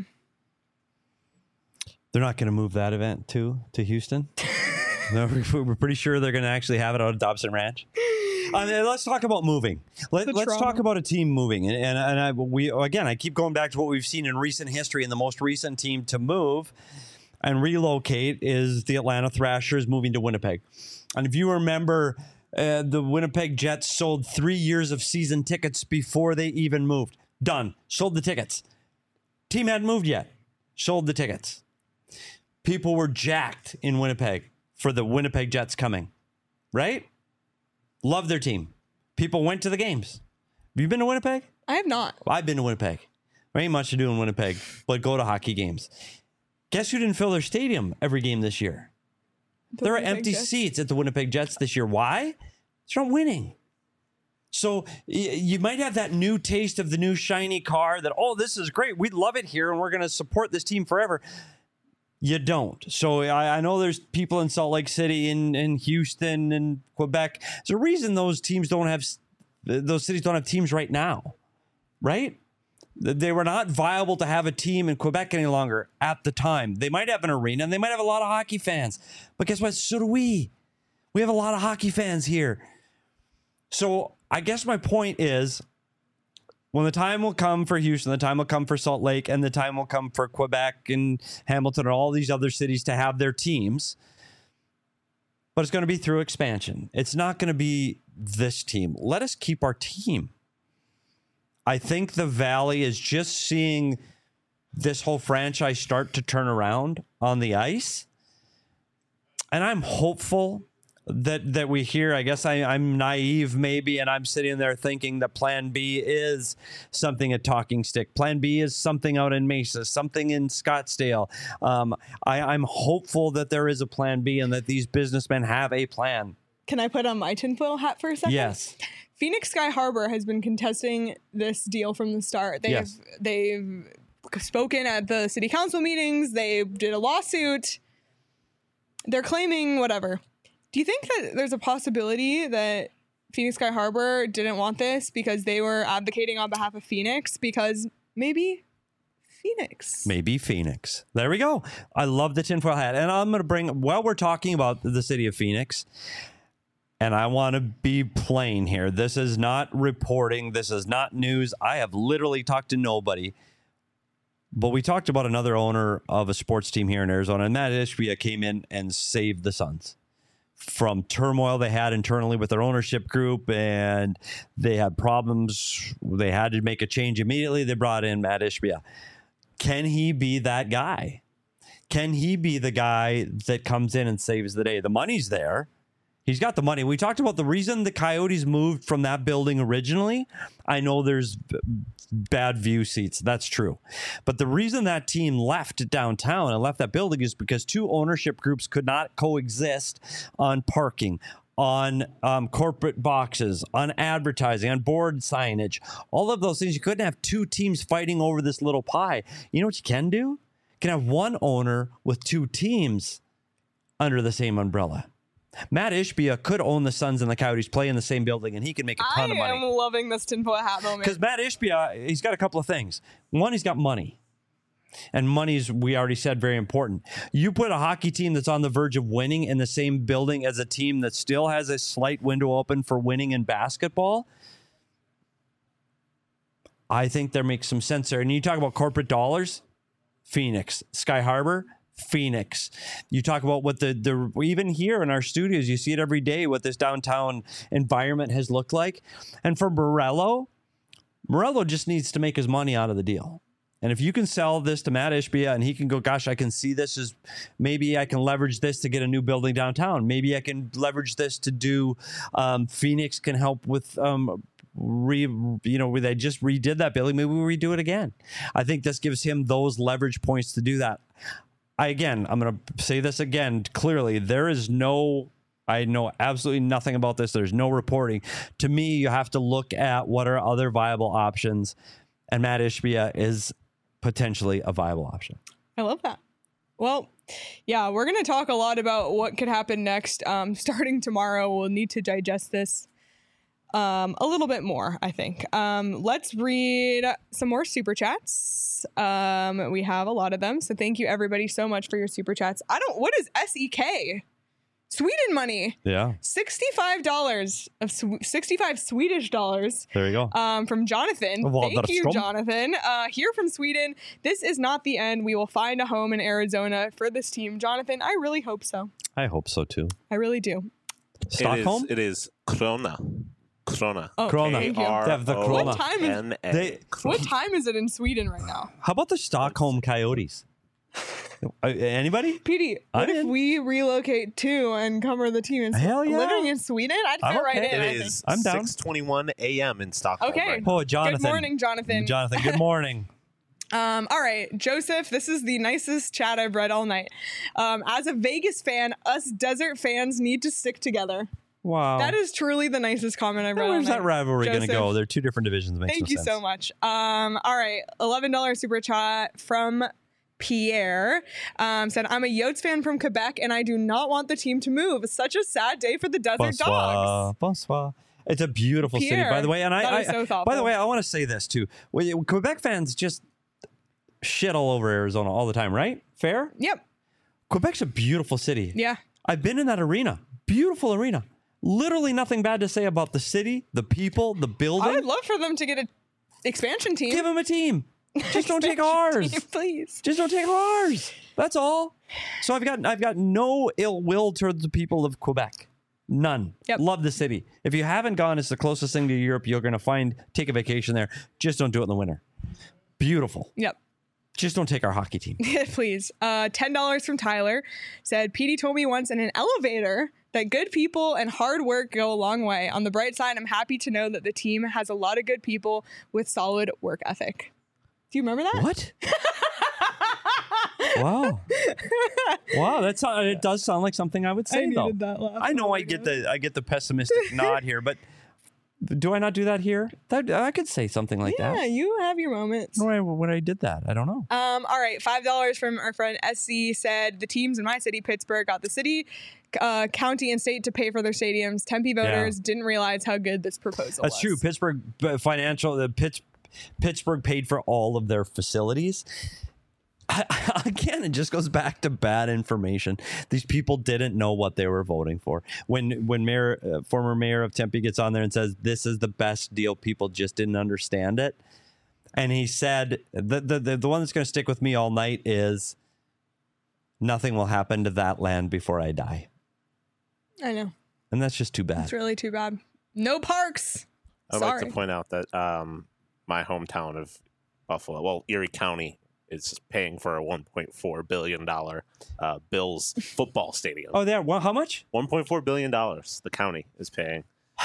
They're not going to move that event too to Houston. No, we're we're pretty sure they're going to actually have it out at Dobson Ranch. Uh, let's talk about moving. Let, The let's trauma. talk about a team moving, and and, and I, we again, I keep going back to what we've seen in recent history. And the most recent team to move and relocate is the Atlanta Thrashers moving to Winnipeg. And if you remember, uh, the Winnipeg Jets sold three years of season tickets before they even moved. Done. Sold the tickets. Team hadn't moved yet. Sold the tickets. People were jacked in Winnipeg for the Winnipeg Jets coming, right? Love their team. People went to the games. Have you been to Winnipeg? I have not. I've been to Winnipeg. There ain't much to do in Winnipeg, but go to hockey games. Guess who didn't fill their stadium every game this year? The There are Winnipeg empty Jets. seats at the Winnipeg Jets this year. Why? They're not winning. So y- you might have that new taste of the new shiny car that, oh, this is great. We love it here and we're going to support this team forever. You don't. So I, I know there's people in Salt Lake City, in, in Houston, and Quebec. There's a reason those teams don't have, those cities don't have teams right now, right? They were not viable to have a team in Quebec any longer at the time. They might have an arena, and they might have a lot of hockey fans. But guess what? So do we. We have a lot of hockey fans here. So I guess my point is, when the time will come for Houston, the time will come for Salt Lake, and the time will come for Quebec and Hamilton and all these other cities to have their teams. But it's going to be through expansion. It's not going to be this team. Let us keep our team. I think the Valley is just seeing this whole franchise start to turn around on the ice. And I'm hopeful that that we hear. I guess I, I'm naive maybe, and I'm sitting there thinking that Plan B is something at Talking Stick. Plan B is something out in Mesa, something in Scottsdale. Um, I, I'm hopeful that there is a Plan B and that these businessmen have a plan. Can I put on my tinfoil hat for a second? Yes. Phoenix Sky Harbor has been contesting this deal from the start. They've Yes. they've spoken at the city council meetings. They did a lawsuit. They're claiming whatever. Do you think that there's a possibility that Phoenix Sky Harbor didn't want this because they were advocating on behalf of Phoenix? Because maybe Phoenix. Maybe Phoenix. There we go. I love the tinfoil hat. And I'm going to bring, while we're talking about the city of Phoenix, and I want to be plain here. This is not reporting. This is not news. I have literally talked to nobody. But we talked about another owner of a sports team here in Arizona, and Matt Ishbia came in and saved the Suns from turmoil they had internally with their ownership group, and they had problems. They had to make a change immediately. They brought in Matt Ishbia. Can he be that guy? Can he be the guy that comes in and saves the day? The money's there. He's got the money. We talked about the reason the Coyotes moved from that building originally. I know there's b- bad view seats. That's true. But the reason that team left downtown and left that building is because two ownership groups could not coexist on parking, on um, corporate boxes, on advertising, on board signage, all of those things. You couldn't have two teams fighting over this little pie. You know what you can do? You can have one owner with two teams under the same umbrella. Matt Ishbia could own the Suns and the Coyotes, play in the same building, and he can make a ton I of money. am loving this tinfoil hat moment. Because Matt Ishbia, he's got a couple of things. One, he's got money. And money's, we already said, very important. You put a hockey team that's on the verge of winning in the same building as a team that still has a slight window open for winning in basketball, I think there makes some sense there. And you talk about corporate dollars, Phoenix, Sky Harbor, Phoenix. You talk about what the, the even here in our studios, you see it every day, what this downtown environment has looked like. And for Morello, Morello just needs to make his money out of the deal. And if you can sell this to Matt Ishbia and he can go, gosh, I can see this as maybe I can leverage this to get a new building downtown. Maybe I can leverage this to do um, Phoenix can help with um, re, you know, they just redid that building. Maybe we redo it again. I think this gives him those leverage points to do that. I, again, I'm going to say this again clearly. There is no, I know absolutely nothing about this. There's no reporting. To me, you have to look at what are other viable options. And Matt Ishbia is potentially a viable option. I love that. Well, yeah, we're going to talk a lot about what could happen next. Um, starting tomorrow, we'll need to digest this um, a little bit more, I think. Um, let's read some more super chats. Um, we have a lot of them. So thank you everybody so much for your super chats. I don't, what is S E K? Sweden money. Yeah. sixty-five dollars of sw- sixty-five Swedish dollars. There you go. Um, from Jonathan. Well, Thank you, from- Jonathan. Uh, here from Sweden. This is not the end. We will find a home in Arizona for this team. Jonathan, I really hope so. I hope so too. I really do. Stockholm? It is, it is Krona. Krona. Oh, Krona. thank you. They have the Krona. What time is They- What time is it in Sweden right now? How about the Stockholm Coyotes? Uh, Anybody? Petey, what I'm if in. we relocate to and cover the team in Hell yeah. living in Sweden? I'd fit I'm right okay. in. It I think. is I'm down. six twenty-one a.m. in Stockholm. Okay. right now. Oh, Jonathan. Good morning, Jonathan. Jonathan, good morning. Um, all right, Joseph, this is the nicest chat I've read all night. Um, as a Vegas fan, us desert fans need to stick together. Wow. That is truly the nicest comment I've read all Where's night. that rivalry going to Joseph, go? They're two different divisions. Makes Thank no you sense. so much. Um, all right, eleven dollars super chat from Pierre um, said, I'm a Yotes fan from Quebec and I do not want the team to move. It's such a sad day for the Desert Bonsoir. Dogs. Bonsoir. It's a beautiful Pierre, city, by the way. And I, that I, is so I thoughtful. by the way, I want to say this too. Well, Quebec fans just shit all over Arizona all the time, right? Fair? Yep. Quebec's a beautiful city. Yeah. I've been in that arena. Beautiful arena. Literally nothing bad to say about the city, the people, the building. I would love for them to get an expansion team. Give them a team. Just don't take ours. Team, please. Just don't take ours. That's all. So I've got I've got no ill will towards the people of Quebec. None. Yep. Love the city. If you haven't gone, it's the closest thing to Europe you're going to find. Take a vacation there. Just don't do it in the winter. Beautiful. Yep. Just don't take our hockey team. Please. Uh, ten dollars from Tyler said, Petey told me once in an elevator that good people and hard work go a long way. On the bright side, I'm happy to know that the team has a lot of good people with solid work ethic. Do you remember that? What? Wow. Wow, that's uh, it does sound like something I would say I though. needed that laugh. I know Oh I my get God. the I get the pessimistic nod here, but do I not do that here? That I could say something like Yeah, that. you have your moments. When I, when I did that, I don't know. Um, all right, five dollars from our friend S C said the teams in my city, Pittsburgh, got the city, uh, county, and state to pay for their stadiums. Tempe voters didn't realize how good this proposal That's was. true. Pittsburgh uh, financial the Pitts, Pittsburgh paid for all of their facilities. I, again, it just goes back to bad information. These people didn't know what they were voting for. When when mayor, uh, former mayor of Tempe gets on there and says this is the best deal, people just didn't understand it. And he said the the the, the one that's going to stick with me all night is nothing will happen to that land before I die. I know. And that's just too bad. It's really too bad. No parks. I'd Sorry. like to point out that um, my hometown of Buffalo, well, Erie County, is paying for a one point four billion dollars uh, Bills football stadium. Oh, there. Well, how much? one point four billion dollars the county is paying.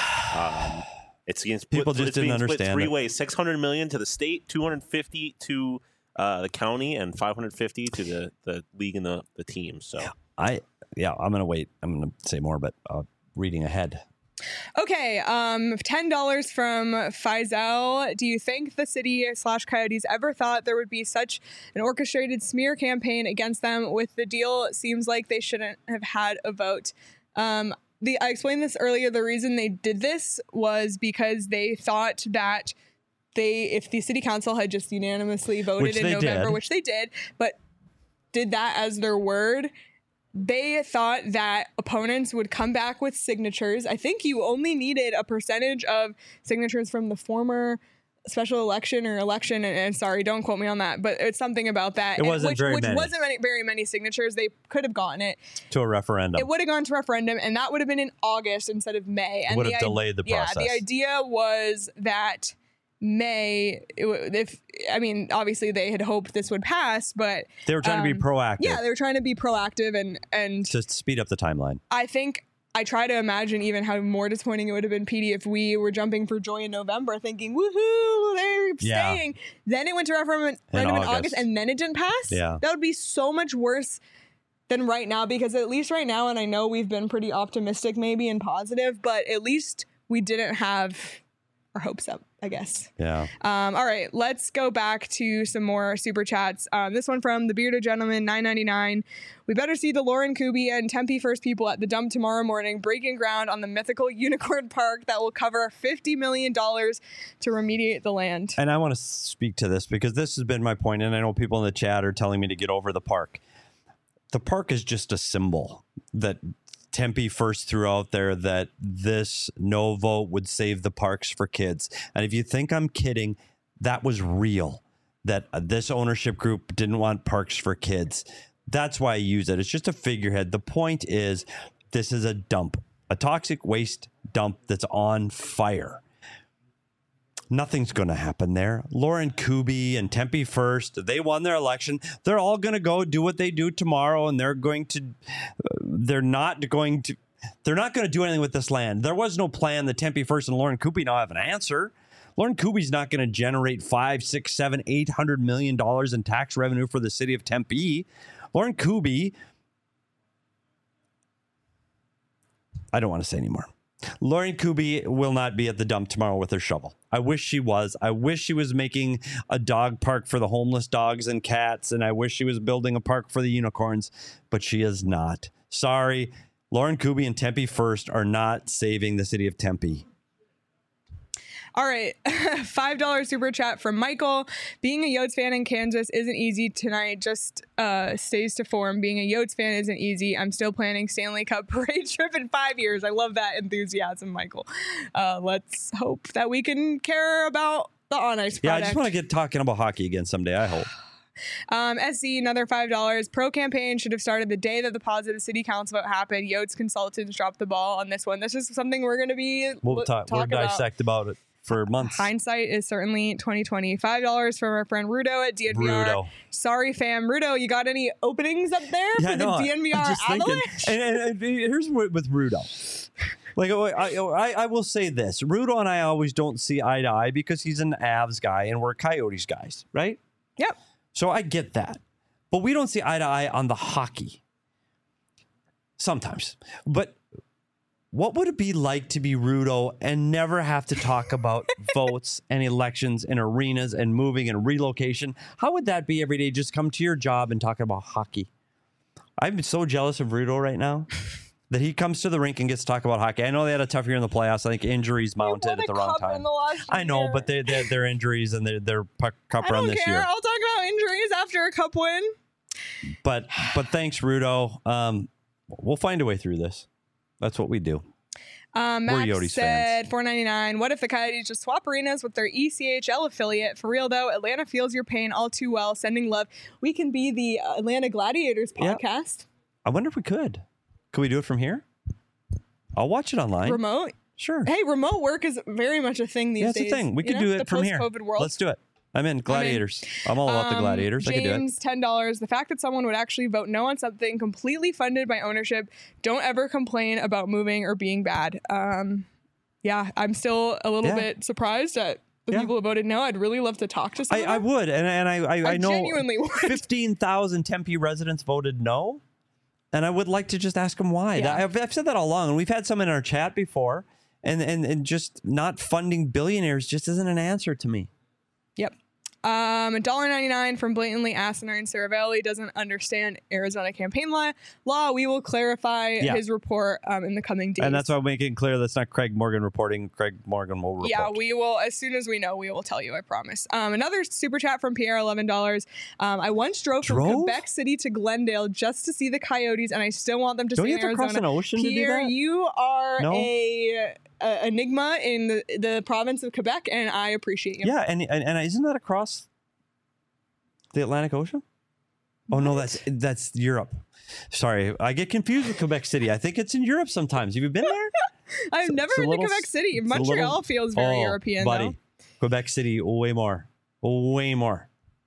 Um, it's being split, People just it's didn't being split understand three it. ways: six hundred million dollars to the state, two hundred fifty to uh, the county, and five hundred fifty to the, the league and the, the team. So I yeah, I'm gonna wait. I'm gonna say more, but uh, reading ahead. Okay, um, ten dollars from Faisal. Do you think the city slash Coyotes ever thought there would be such an orchestrated smear campaign against them? With the deal, it seems like they shouldn't have had a vote. Um, the I explained this earlier. The reason they did this was because they thought that they, if the city council had just unanimously voted Which in they November, did. which they did, but did that as their word, they thought that opponents would come back with signatures. I think you only needed a percentage of signatures from the former special election or election. And, and sorry, don't quote me on that, but it's something about that. It And wasn't which, very which many. wasn't many, very many signatures. They could have gotten it. To a referendum. It would have gone to referendum, and that would have been in August instead of May. And would the have i- delayed the Yeah, the process. idea was that May, it, w- if I mean, obviously they had hoped this would pass, but They were trying to um, be proactive. yeah, they were trying to be proactive and and to speed up the timeline. I think I try to imagine even how more disappointing it would have been, Petey, if we were jumping for joy in November thinking, woohoo, they're Yeah. staying. Then it went to referendum In in August. August. and then it didn't pass. Yeah. That would be so much worse than right now, because at least right now, and I know we've been pretty optimistic maybe and positive, but at least we didn't have our hopes up, I guess. Yeah. Um, all right, let's go back to some more super chats. Um, this one from the Bearded Gentleman, nine ninety-nine. We better see the Lauren Kuby and Tempe First people at the dump tomorrow morning, breaking ground on the mythical Unicorn Park that will cover fifty million dollars to remediate the land. And I want to speak to this because this has been my point, and I know people in the chat are telling me to get over the park. The park is just a symbol that Tempe first threw out there, that this no vote would save the parks for kids. And if you think I'm kidding, that was real, that uh, this ownership group didn't want parks for kids. That's why I use it. It's just a figurehead. The point is, this is a dump, a toxic waste dump that's on fire. Nothing's going to happen there. Lauren Kuby and Tempe First, they won their election. They're all going to go do what they do tomorrow, and they're going to, uh, they're not going to, they're not going to do anything with this land. There was no plan that Tempe First and Lauren Kuby now have an answer. Lauren Kuby's not going to generate five, six, seven, eight hundred million dollars in tax revenue for the city of Tempe. Lauren Kuby, I don't want to say anymore. Lauren Kuby will not be at the dump tomorrow with her shovel. I wish she was. I wish she was making a dog park for the homeless dogs and cats, and I wish she was building a park for the unicorns, but she is not. Sorry. Lauren Kuby and Tempe First are not saving the city of Tempe. All right. five dollars super chat from Michael. Being a Yotes fan in Kansas isn't easy tonight. Just uh, stays to form. Being a Yotes fan isn't easy. I'm still planning Stanley Cup parade trip in five years. I love that enthusiasm, Michael. Uh, let's hope that we can care about the On Ice product. Yeah, I just want to get talking about hockey again someday, I hope. Um, S C, another five dollars. Pro campaign should have started the day that the positive city council vote happened. Yotes consultants dropped the ball on this one. This is something we're going to be We'll lo- talk, we'll talk about. dissect about it for months. Hindsight is certainly twenty twenty. five dollars from our friend Rudo at D N V R. Rudo. Sorry, fam. Rudo, you got any openings up there Yeah, for the no, D N V I'm R just thinking. Avalanche? And, and, and here's what with Rudo. Like I, I, I will say this: Rudo and I always don't see eye to eye because he's an Avs guy and we're Coyotes guys, right? Yep. So I get that, but we don't see eye to eye on the hockey. Sometimes, but what would it be like to be Rudo and never have to talk about votes and elections and arenas and moving and relocation? How would that be every day? Just come to your job and talk about hockey. I'm so jealous of Rudo right now that he comes to the rink and gets to talk about hockey. I know they had a tough year in the playoffs. I think injuries mounted at the wrong time. I know, but they, they, their injuries and their, their puck, cup I run don't this care. year. I'll talk about injuries after a cup win. But but thanks, Rudo. Um, we'll find a way through this. That's what we do. Um, We're Max Yotes said four ninety-nine. What if the Coyotes just swap arenas with their E C H L affiliate? For real though, Atlanta feels your pain all too well. Sending love. We can be the Atlanta Gladiators Yeah. podcast. I wonder if we could. Could we do it from here? I'll watch it online. Remote. Sure. Hey, remote work is very much a thing these Yeah, that's days. the thing. We you could know, do it the from here. post-COVID world. Let's do it. I'm in. Gladiators. I'm, all about the Um, Gladiators. I could do it. James, ten dollars. The fact that someone would actually vote no on something completely funded by ownership. Don't ever complain about moving or being bad. Um, yeah, I'm still a little Yeah. bit surprised at the Yeah. people who voted no. I'd really love to talk to I, someone. I would, and and I I, I I know genuinely would. fifteen thousand Tempe residents voted no, and I would like to just ask them why. Yeah. I've, I've said that all along, and we've had some in our chat before, and and and just not funding billionaires just isn't an answer to me. Yep. Um, one dollar ninety-nine from blatantly asinine Saravelli doesn't understand Arizona campaign law. Law. We will clarify Yeah. his report um, in the coming days. And that's why I'm making it clear that's not Craig Morgan reporting. Craig Morgan will report. Yeah, we will. As soon as we know, we will tell you. I promise. Um, another super chat from Pierre, eleven dollars. Um, I once drove, Drove? from Quebec City to Glendale just to see the Coyotes, and I still want them to Don't stay you in have to cross Arizona. an ocean to do Pierre, that? you are No? a, a enigma in the, the province of Quebec, and I appreciate you. Yeah, and, and and isn't that across the Atlantic Ocean? Oh no, that's that's Europe. Sorry, I get confused with Quebec City. I think it's in Europe sometimes. Have you been there? I've never it's a been little- to Quebec City. it's a Montreal little- feels very Oh, European, buddy. though. Quebec City, way more, way more.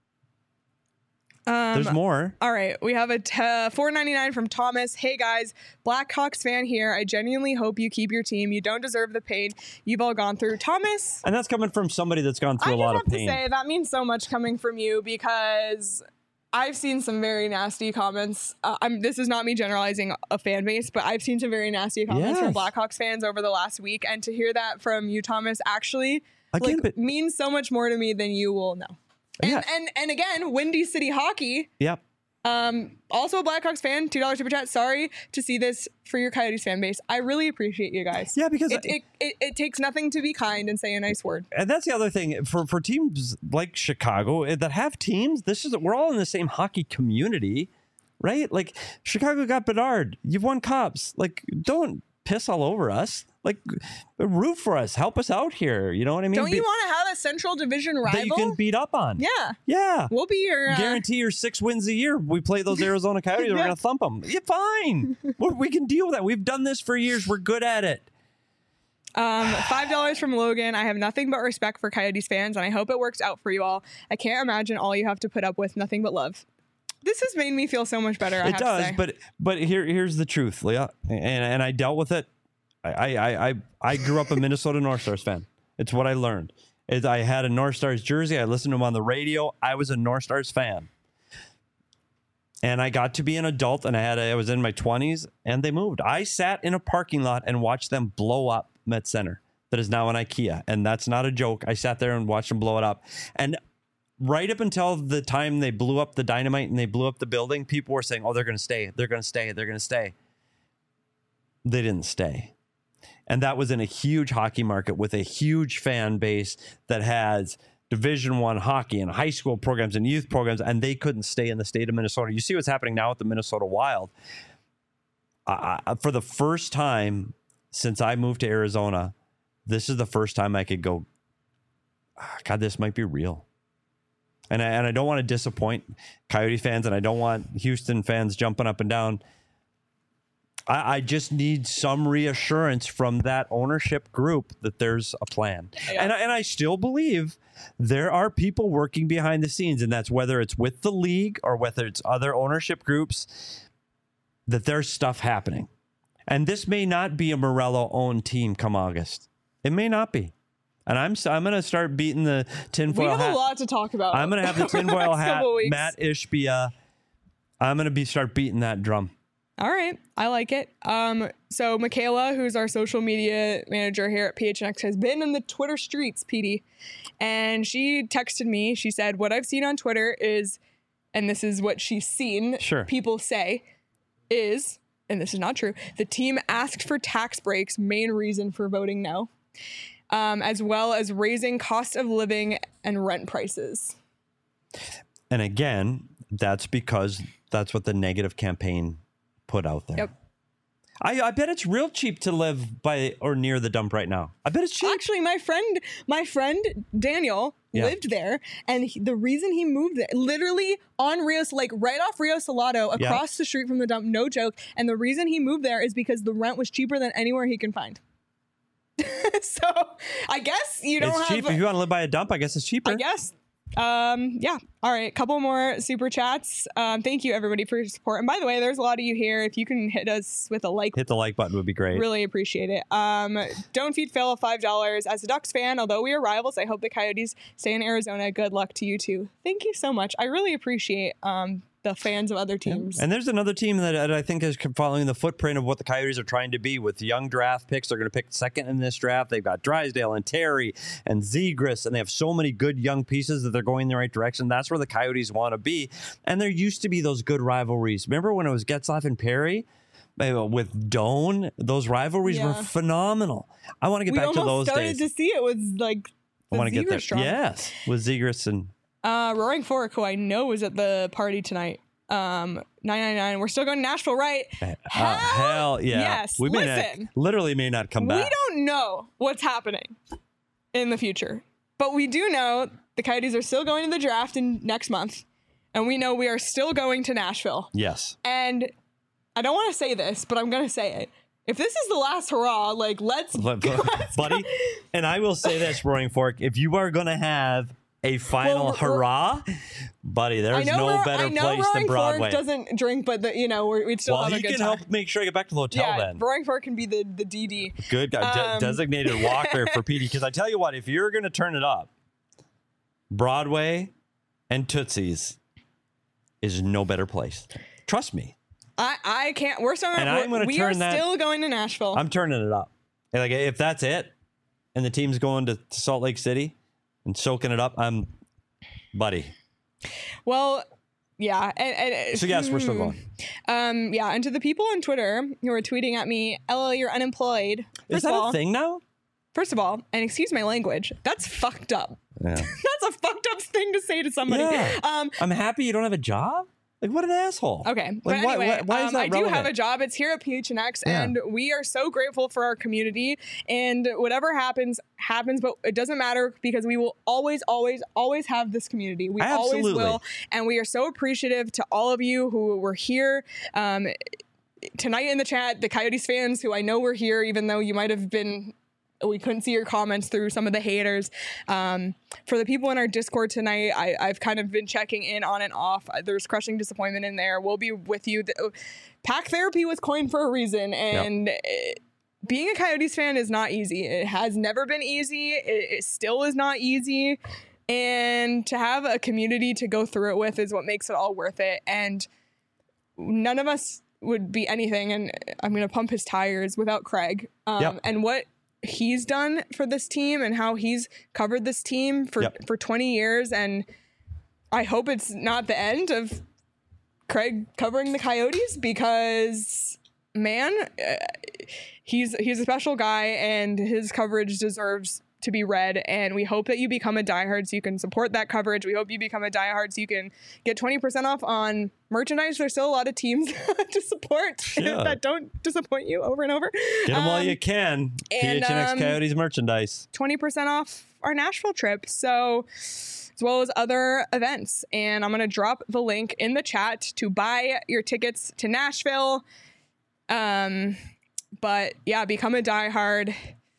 Um, There's more. All right, we have a t- four ninety-nine from Thomas. Hey guys, Blackhawks fan here. I genuinely hope you keep your team. You don't deserve the pain you've all gone through. Thomas, And that's coming from somebody that's gone through I a just lot have of pain. to say that means so much coming from you because I've seen some very nasty comments. Uh, I'm, this is not me generalizing a fan base, but I've seen some very nasty comments from Yes. Blackhawks fans over the last week, and to hear that from you, Thomas, actually Again, like, but- means so much more to me than you will know. And, Yeah. and and again, Windy City Hockey. Yep. Um, also a Blackhawks fan, two dollars super chat. Sorry to see this for your Coyotes fan base. I really appreciate you guys. Yeah, because it, it, it, it takes nothing to be kind and say a nice word. And that's the other thing for for teams like Chicago eh, that have teams. This is we're all in the same hockey community, right? Like Chicago got Bedard. You've won cups. Like don't piss all over us. Like root for us. Help us out here. You know what I mean? Don't Be- you want to have a Central Division rival? that you can beat up on? Yeah, Yeah. we'll be your. Uh, Guarantee your six wins a year. We play those Arizona Coyotes. We're Yeah. gonna thump them. Yeah, fine. we we can deal with that. We've done this for years. We're good at it. Um, five dollars from Logan. I have nothing but respect for Coyotes fans, and I hope it works out for you all. I can't imagine all you have to put up with. Nothing but love. This has made me feel so much better. I It have to does, say. but but here here's the truth, Leah, and and I dealt with it. I I I I grew up a Minnesota North Stars fan. It's what I learned. Is I had a North Stars jersey. I listened to them on the radio. I was a North Stars fan. And I got to be an adult, and I had a, I was in my twenties, and they moved. I sat in a parking lot and watched them blow up Met Center. That is now an IKEA, and that's not a joke. I sat there and watched them blow it up. And right up until the time they blew up the dynamite and they blew up the building, people were saying, oh, they're going to stay. They're going to stay. They're going to stay. They didn't stay. And that was in a huge hockey market with a huge fan base that has Division One hockey and high school programs and youth programs, and they couldn't stay in the state of Minnesota. You see what's happening now with the Minnesota Wild. Uh, for the first time since I moved to Arizona, this is the first time I could go, oh, God, this might be real. And I, and I don't want to disappoint Coyote fans, and I don't want Houston fans jumping up and down. I, I just need some reassurance from that ownership group that there's a plan. Yeah. And, and I still believe there are people working behind the scenes, and that's whether it's with the league or whether it's other ownership groups, that there's stuff happening. And this may not be a Morello-owned team come August. It may not be. And I'm I'm going to start beating the tinfoil hat. We have hat. a lot to talk about. I'm going to have the tinfoil hat, Matt Ishbia. I'm going to be start beating that drum. All right. I like it. Um, so Michaela, who's our social media manager here at P H N X, has been in the Twitter streets, P D. And she texted me. She said, what I've seen on Twitter is, and this is what she's seen sure. people say, is, and this is not true, the team asked for tax breaks, main reason for voting no. Um, as well as raising cost of living and rent prices. And again, that's because that's what the negative campaign put out there. Yep. I, I bet it's real cheap to live by or near the dump right now. I bet it's cheap. Actually, my friend, my friend Daniel yeah. lived there, and he, the reason he moved there, literally on Rios, like right off Rio Salado, across yeah. the street from the dump, no joke. And the reason he moved there is because the rent was cheaper than anywhere he can find. So I guess you don't it's have cheap. If you want to live by a dump, I guess it's cheaper. I guess. Um, yeah. All right. Couple more super chats. Um, thank you everybody for your support. And by the way, there's a lot of you here. If you can hit us with a like, hit the like button would be great. Really appreciate it. Um, Don't Feed Phil of five dollars. As a Ducks fan, although we are rivals, I hope the Coyotes stay in Arizona. Good luck to you too. Thank you so much. I really appreciate, um, the fans of other teams. Yeah. And there's another team that, that I think is following the footprint of what the Coyotes are trying to be with young draft picks. They're going to pick second in this draft. They've got Drysdale and Terry and Zegras, and they have so many good young pieces that they're going in the right direction. That's where the Coyotes want to be. And there used to be those good rivalries. Remember when it was Getzlaf and Perry? With Doan, those rivalries yeah. were phenomenal. I want to get we back to those days. We almost started to see it was like the I want to get there. Strong. Yes, with Zegras and Uh, Roaring Fork, who I know was at the party tonight. Um, nine nine nine. We're still going to Nashville, right? Uh, hell, hell yeah. Yes. We may Listen, not, literally may not come back. We don't know what's happening in the future, but we do know the Coyotes are still going to the draft in next month, and we know we are still going to Nashville. Yes. And I don't want to say this, but I'm going to say it. If this is the last hurrah, like let's, Let, let's buddy. Go. And I will say this, Roaring Fork, if you are going to have a final well, hurrah, buddy, there's no better I know place Roaring than Broadway. Fork doesn't drink, but the, you know we're, we'd still well, have a good time. Well, he can help make sure I get back to the hotel yeah, then. Roaring Fork can be the, the D D. Good guy. Um, De- designated walker for P D. Because I tell you what, if you're going to turn it up, Broadway and Tootsie's is no better place. Trust me. I, I can't. We're still. And I'm gonna we turn are that, still going to Nashville. I'm turning it up. And like if that's it, and the team's going to Salt Lake City and soaking it up, I'm, buddy. Well, yeah. And, and, so yes, we're still going. Um, yeah. And to the people on Twitter who are tweeting at me, "L L, you're unemployed." First Is that all, a thing now? First of all, and excuse my language, that's fucked up. Yeah. That's a fucked up thing to say to somebody. Yeah. Um, I'm happy you don't have a job. Like, what an asshole. Okay. Like, but anyway, why, why is um, that I do relevant? have a job. It's here at P H N X, yeah. and we are so grateful for our community. And whatever happens, happens, but it doesn't matter because we will always, always, always have this community. We Absolutely. always will. And we are so appreciative to all of you who were here um, tonight in the chat, the Coyotes fans who I know were here, even though you might have been... we couldn't see your comments through some of the haters. Um, for the people in our Discord tonight, I, I've kind of been checking in on and off. There's crushing disappointment in there. We'll be with you. The, Pack therapy was coined for a reason, and yep. it, being a Coyotes fan is not easy. It has never been easy. It, it still is not easy. And to have a community to go through it with is what makes it all worth it. And none of us would be anything, and I'm going to pump his tires without Craig. Um, Yep. And what he's done for this team and how he's covered this team for, Yep. for twenty years. And I hope it's not the end of Craig covering the Coyotes, because man, uh, he's he's a special guy, and his coverage deserves to be read. And we hope that you become a diehard so you can support that coverage. We hope you become a diehard so you can get twenty percent off on merchandise. There's still a lot of teams to support Yeah. that don't disappoint you over and over. Get them while Um, you can. P and, H N X um, Coyotes merchandise. twenty percent off our Nashville trip. So, as well as other events. And I'm going to drop the link in the chat to buy your tickets to Nashville. Um, but yeah, become a diehard.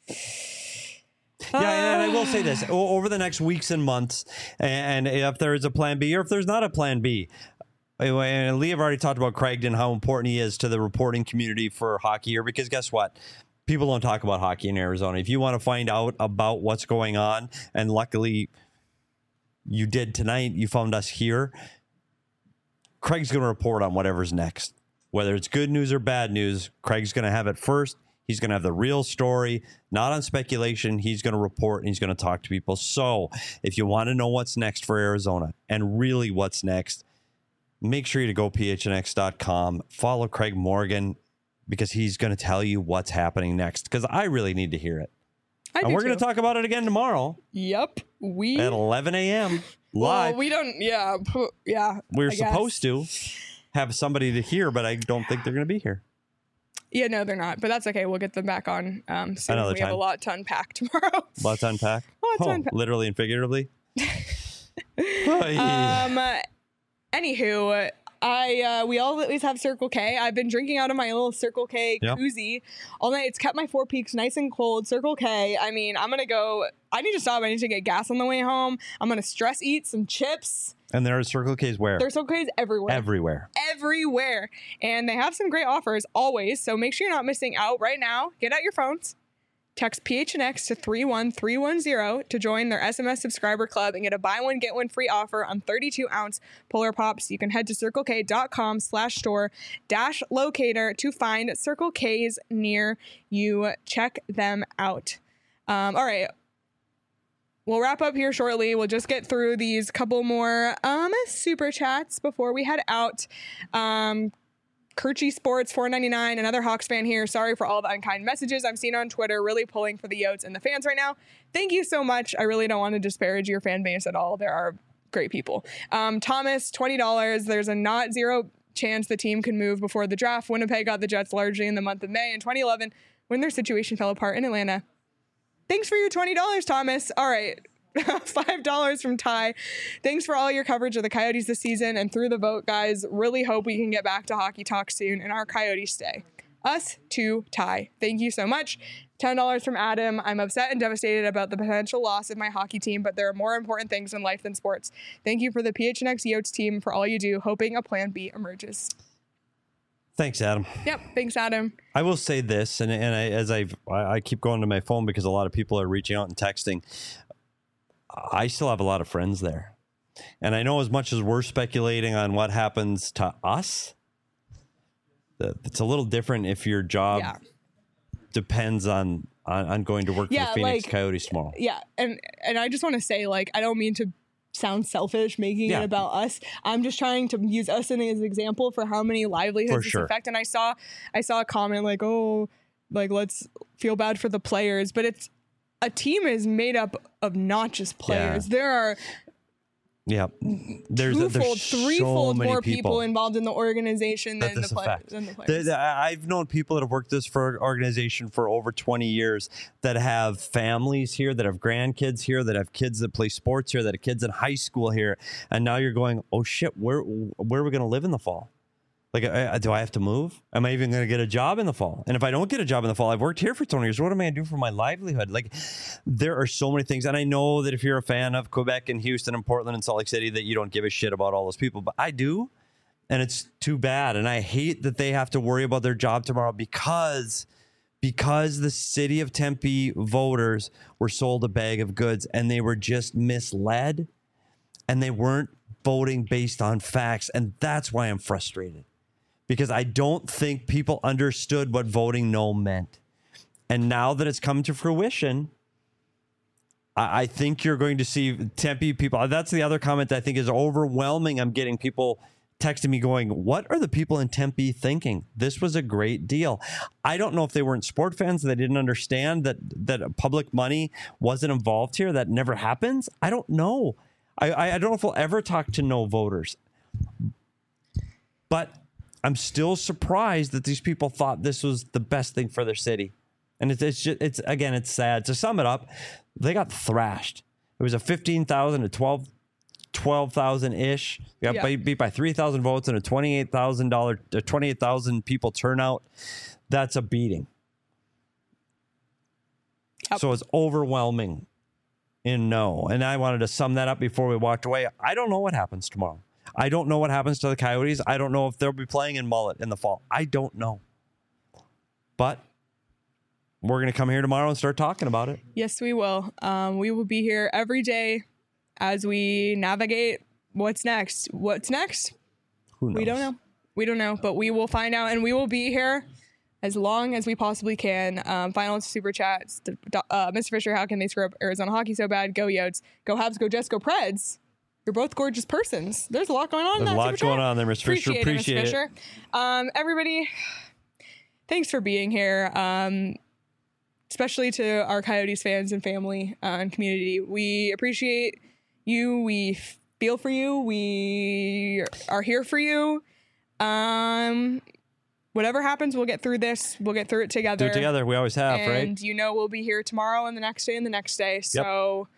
Yeah, and I will say this o- over the next weeks and months, and if there is a plan B or if there's not a plan B. And Lee have already talked about Craig and how important he is to the reporting community for hockey here, because guess what? People don't talk about hockey in Arizona. If you want to find out about what's going on, and luckily you did tonight, you found us here, Craig's going to report on whatever's next. Whether it's good news or bad news, Craig's going to have it first. He's going to have the real story, not on speculation. He's going to report and he's going to talk to people. So if you want to know what's next for Arizona and really what's next, make sure you to go P H N X dot com, follow Craig Morgan, because he's going to tell you what's happening next, because I really need to hear it. I And do we're going too. to talk about it again tomorrow Yep. We, at eleven a.m. well, live. we don't, yeah, pu- yeah. We're I guess. supposed to have somebody to hear, but I don't think they're going to be here. Yeah, no, they're not, but that's okay. We'll get them back on um, soon. Another we have a time. lot to unpack tomorrow. Lots to unpack. Lots to Oh, unpack. literally and figuratively. Oh, yeah. Um, uh, anywho, I uh, we always have Circle K. I've been drinking out of my little Circle K Yep. koozie all night. It's kept my Four Peaks nice and cold. Circle K. I mean, I'm gonna go. I need to stop. I need to get gas on the way home. I'm gonna stress eat some chips. And there are Circle K's where? There's Circle K's everywhere. Everywhere. everywhere. And they have some great offers always. So make sure you're not missing out right now. Get out your phones. Text P H N X to three one three one zero to join their S M S subscriber club and get a buy one, get one free offer on thirty-two ounce Polar Pops. You can head to circlek.com slash store dash locator to find Circle K's near you. Check them out. Um, all right. We'll wrap up here shortly. We'll just get through these couple more um, super chats before we head out. Um, Kirchy Sports four ninety-nine, another Hawks fan here. Sorry for all the unkind messages I'm seeing on Twitter. Really pulling for the Yotes and the fans right now. Thank you so much. I really don't want to disparage your fan base at all. There are great people. Um, Thomas, twenty dollars. There's a not zero chance the team can move before the draft. Winnipeg got the Jets largely in the month of May in twenty eleven when their situation fell apart in Atlanta. Thanks for your twenty dollars, Thomas. All right. five dollars from Ty. Thanks for all your coverage of the Coyotes this season and through the vote, guys. Really hope we can get back to hockey talk soon and our Coyotes stay. Us to Ty. Thank you so much. ten dollars from Adam. I'm upset and devastated about the potential loss of my hockey team, but there are more important things in life than sports. Thank you for the P H N X Yotes team for all you do, hoping a plan B emerges. Thanks, Adam. Yep. Thanks, Adam. I will say this, and, and I, as I've, I I keep going to my phone because a lot of people are reaching out and texting. I still have a lot of friends there. And I know as much as we're speculating on what happens to us, that it's a little different if your job Yeah. depends on, on, on going to work Yeah, for the Phoenix like- Coyotes tomorrow. Yeah, and and I just want to say, like, I don't mean to sound selfish making Yeah. it about us. I'm just trying to use us as an example for how many livelihoods For this sure. affect. And I saw I saw a comment like, oh, like let's feel bad for the players, but it's a team is made up of not just players. There are Yeah. There's, twofold, there's so threefold many more people. involved in the organization that than the, this play- affects. than the The- players. the- I've known people that have worked this for organization for over twenty years that have families here, that have grandkids here, that have kids that play sports here, that have kids in high school here, and now you're going, oh shit, where where are we going to live in the fall? Like, I, do I have to move? Am I even going to get a job in the fall? And if I don't get a job in the fall, I've worked here for twenty years. What am I going to do for my livelihood? Like, there are so many things. And I know that if you're a fan of Quebec and Houston and Portland and Salt Lake City, that you don't give a shit about all those people. But I do. And it's too bad. And I hate that they have to worry about their job tomorrow because, because the city of Tempe voters were sold a bag of goods and they were just misled and they weren't voting based on facts. And that's why I'm frustrated. because I don't think people understood what voting no meant. And now that it's come to fruition, I, I think you're going to see Tempe people. That's the other comment that I think is overwhelming. I'm getting people texting me going, what are the people in Tempe thinking? This was a great deal. I don't know if they weren't sport fans, they didn't understand that that public money wasn't involved here. That never happens. I don't know. I, I don't know if we'll ever talk to no voters. But I'm still surprised that these people thought this was the best thing for their city. And it's, it's just, it's again, it's sad. To sum it up, they got thrashed. It was a fifteen thousand to twelve twelve thousand ish. We got Yeah. beat by three thousand votes and a twenty-eight thousand dollars, twenty-eight thousand people turnout. That's a beating. Yep. So it's overwhelming in no. And I wanted to sum that up before we walked away. I don't know what happens tomorrow. I don't know what happens to the Coyotes. I don't know if they'll be playing in Mullet in the fall. I don't know. But we're going to come here tomorrow and start talking about it. Yes, we will. Um, we will be here every day as we navigate what's next. What's next? Who knows? We don't know. We don't know, but we will find out, and we will be here as long as we possibly can. Um, final super chats. Uh, Mister Fisher, how can they screw up Arizona hockey so bad? Go Yotes. Go Habs. Go Jets. Go Preds. You're both gorgeous persons. There's a lot going on. There's in a that lot super going chat. on there, Mister Fisher. Appreciate, Appreciate it, it. Mister Fisher. Um, everybody, thanks for being here. Um, especially to our Coyotes fans and family uh, and community. We appreciate you. We feel for you. We are here for you. Um, whatever happens, we'll get through this. We'll get through it together. Do it together. We always have, and right? you know we'll be here tomorrow and the next day and the next day. So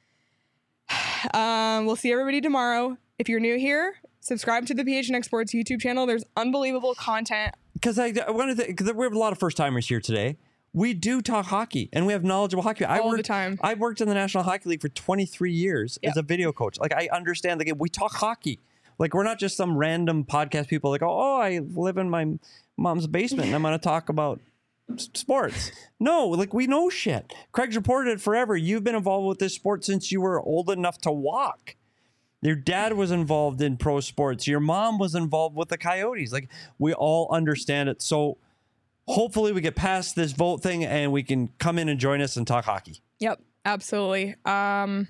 um, we'll see everybody tomorrow. If you're new here, subscribe to the P H N X Sports YouTube channel. There's unbelievable content. Because I, I wanted to, because we have a lot of first timers here today. We do talk hockey, and we have knowledgeable hockey. I All worked, the time. I worked in the National Hockey League for twenty-three years Yep. as a video coach. Like, I understand the game. We talk hockey. Like, we're not just some random podcast people like, oh, oh I live in my mom's basement, and I'm going to talk about s- sports. No, like, we know shit. Craig's reported it forever. You've been involved with this sport since you were old enough to walk. Your dad was involved in pro sports. Your mom was involved with the Coyotes. Like, we all understand it. So hopefully we get past this vote thing and we can come in and join us and talk hockey. Yep, absolutely. Um,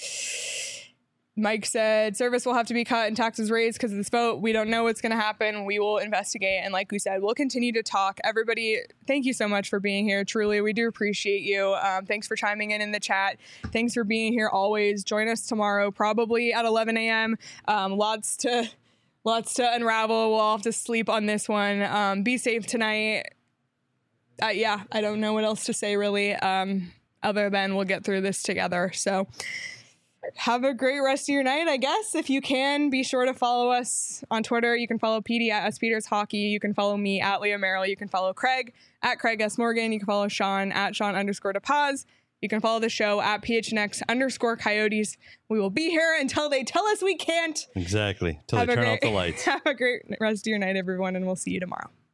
Mike said service will have to be cut and taxes raised because of this vote. We don't know what's going to happen. We will investigate. And like we said, we'll continue to talk. Everybody, thank you so much for being here. Truly, we do appreciate you. Um, thanks for chiming in in the chat. Thanks for being here always. Join us tomorrow, probably at eleven a.m. Um, lots to lots to unravel. We'll all have to sleep on this one. Um, be safe tonight. Uh, yeah, I don't know what else to say really, um, other than we'll get through this together. So have a great rest of your night, I guess. If you can, be sure to follow us on Twitter. You can follow Petey at S Peters Hockey. You can follow me at Leah Merrill. You can follow Craig at Craig S. Morgan. You can follow Sean at Sean underscore DePaz. You can follow the show at P H N X underscore Coyotes. We will be here until they tell us we can't. Exactly. Till Have they a turn great- off the lights. Have a great rest of your night, everyone, and we'll see you tomorrow.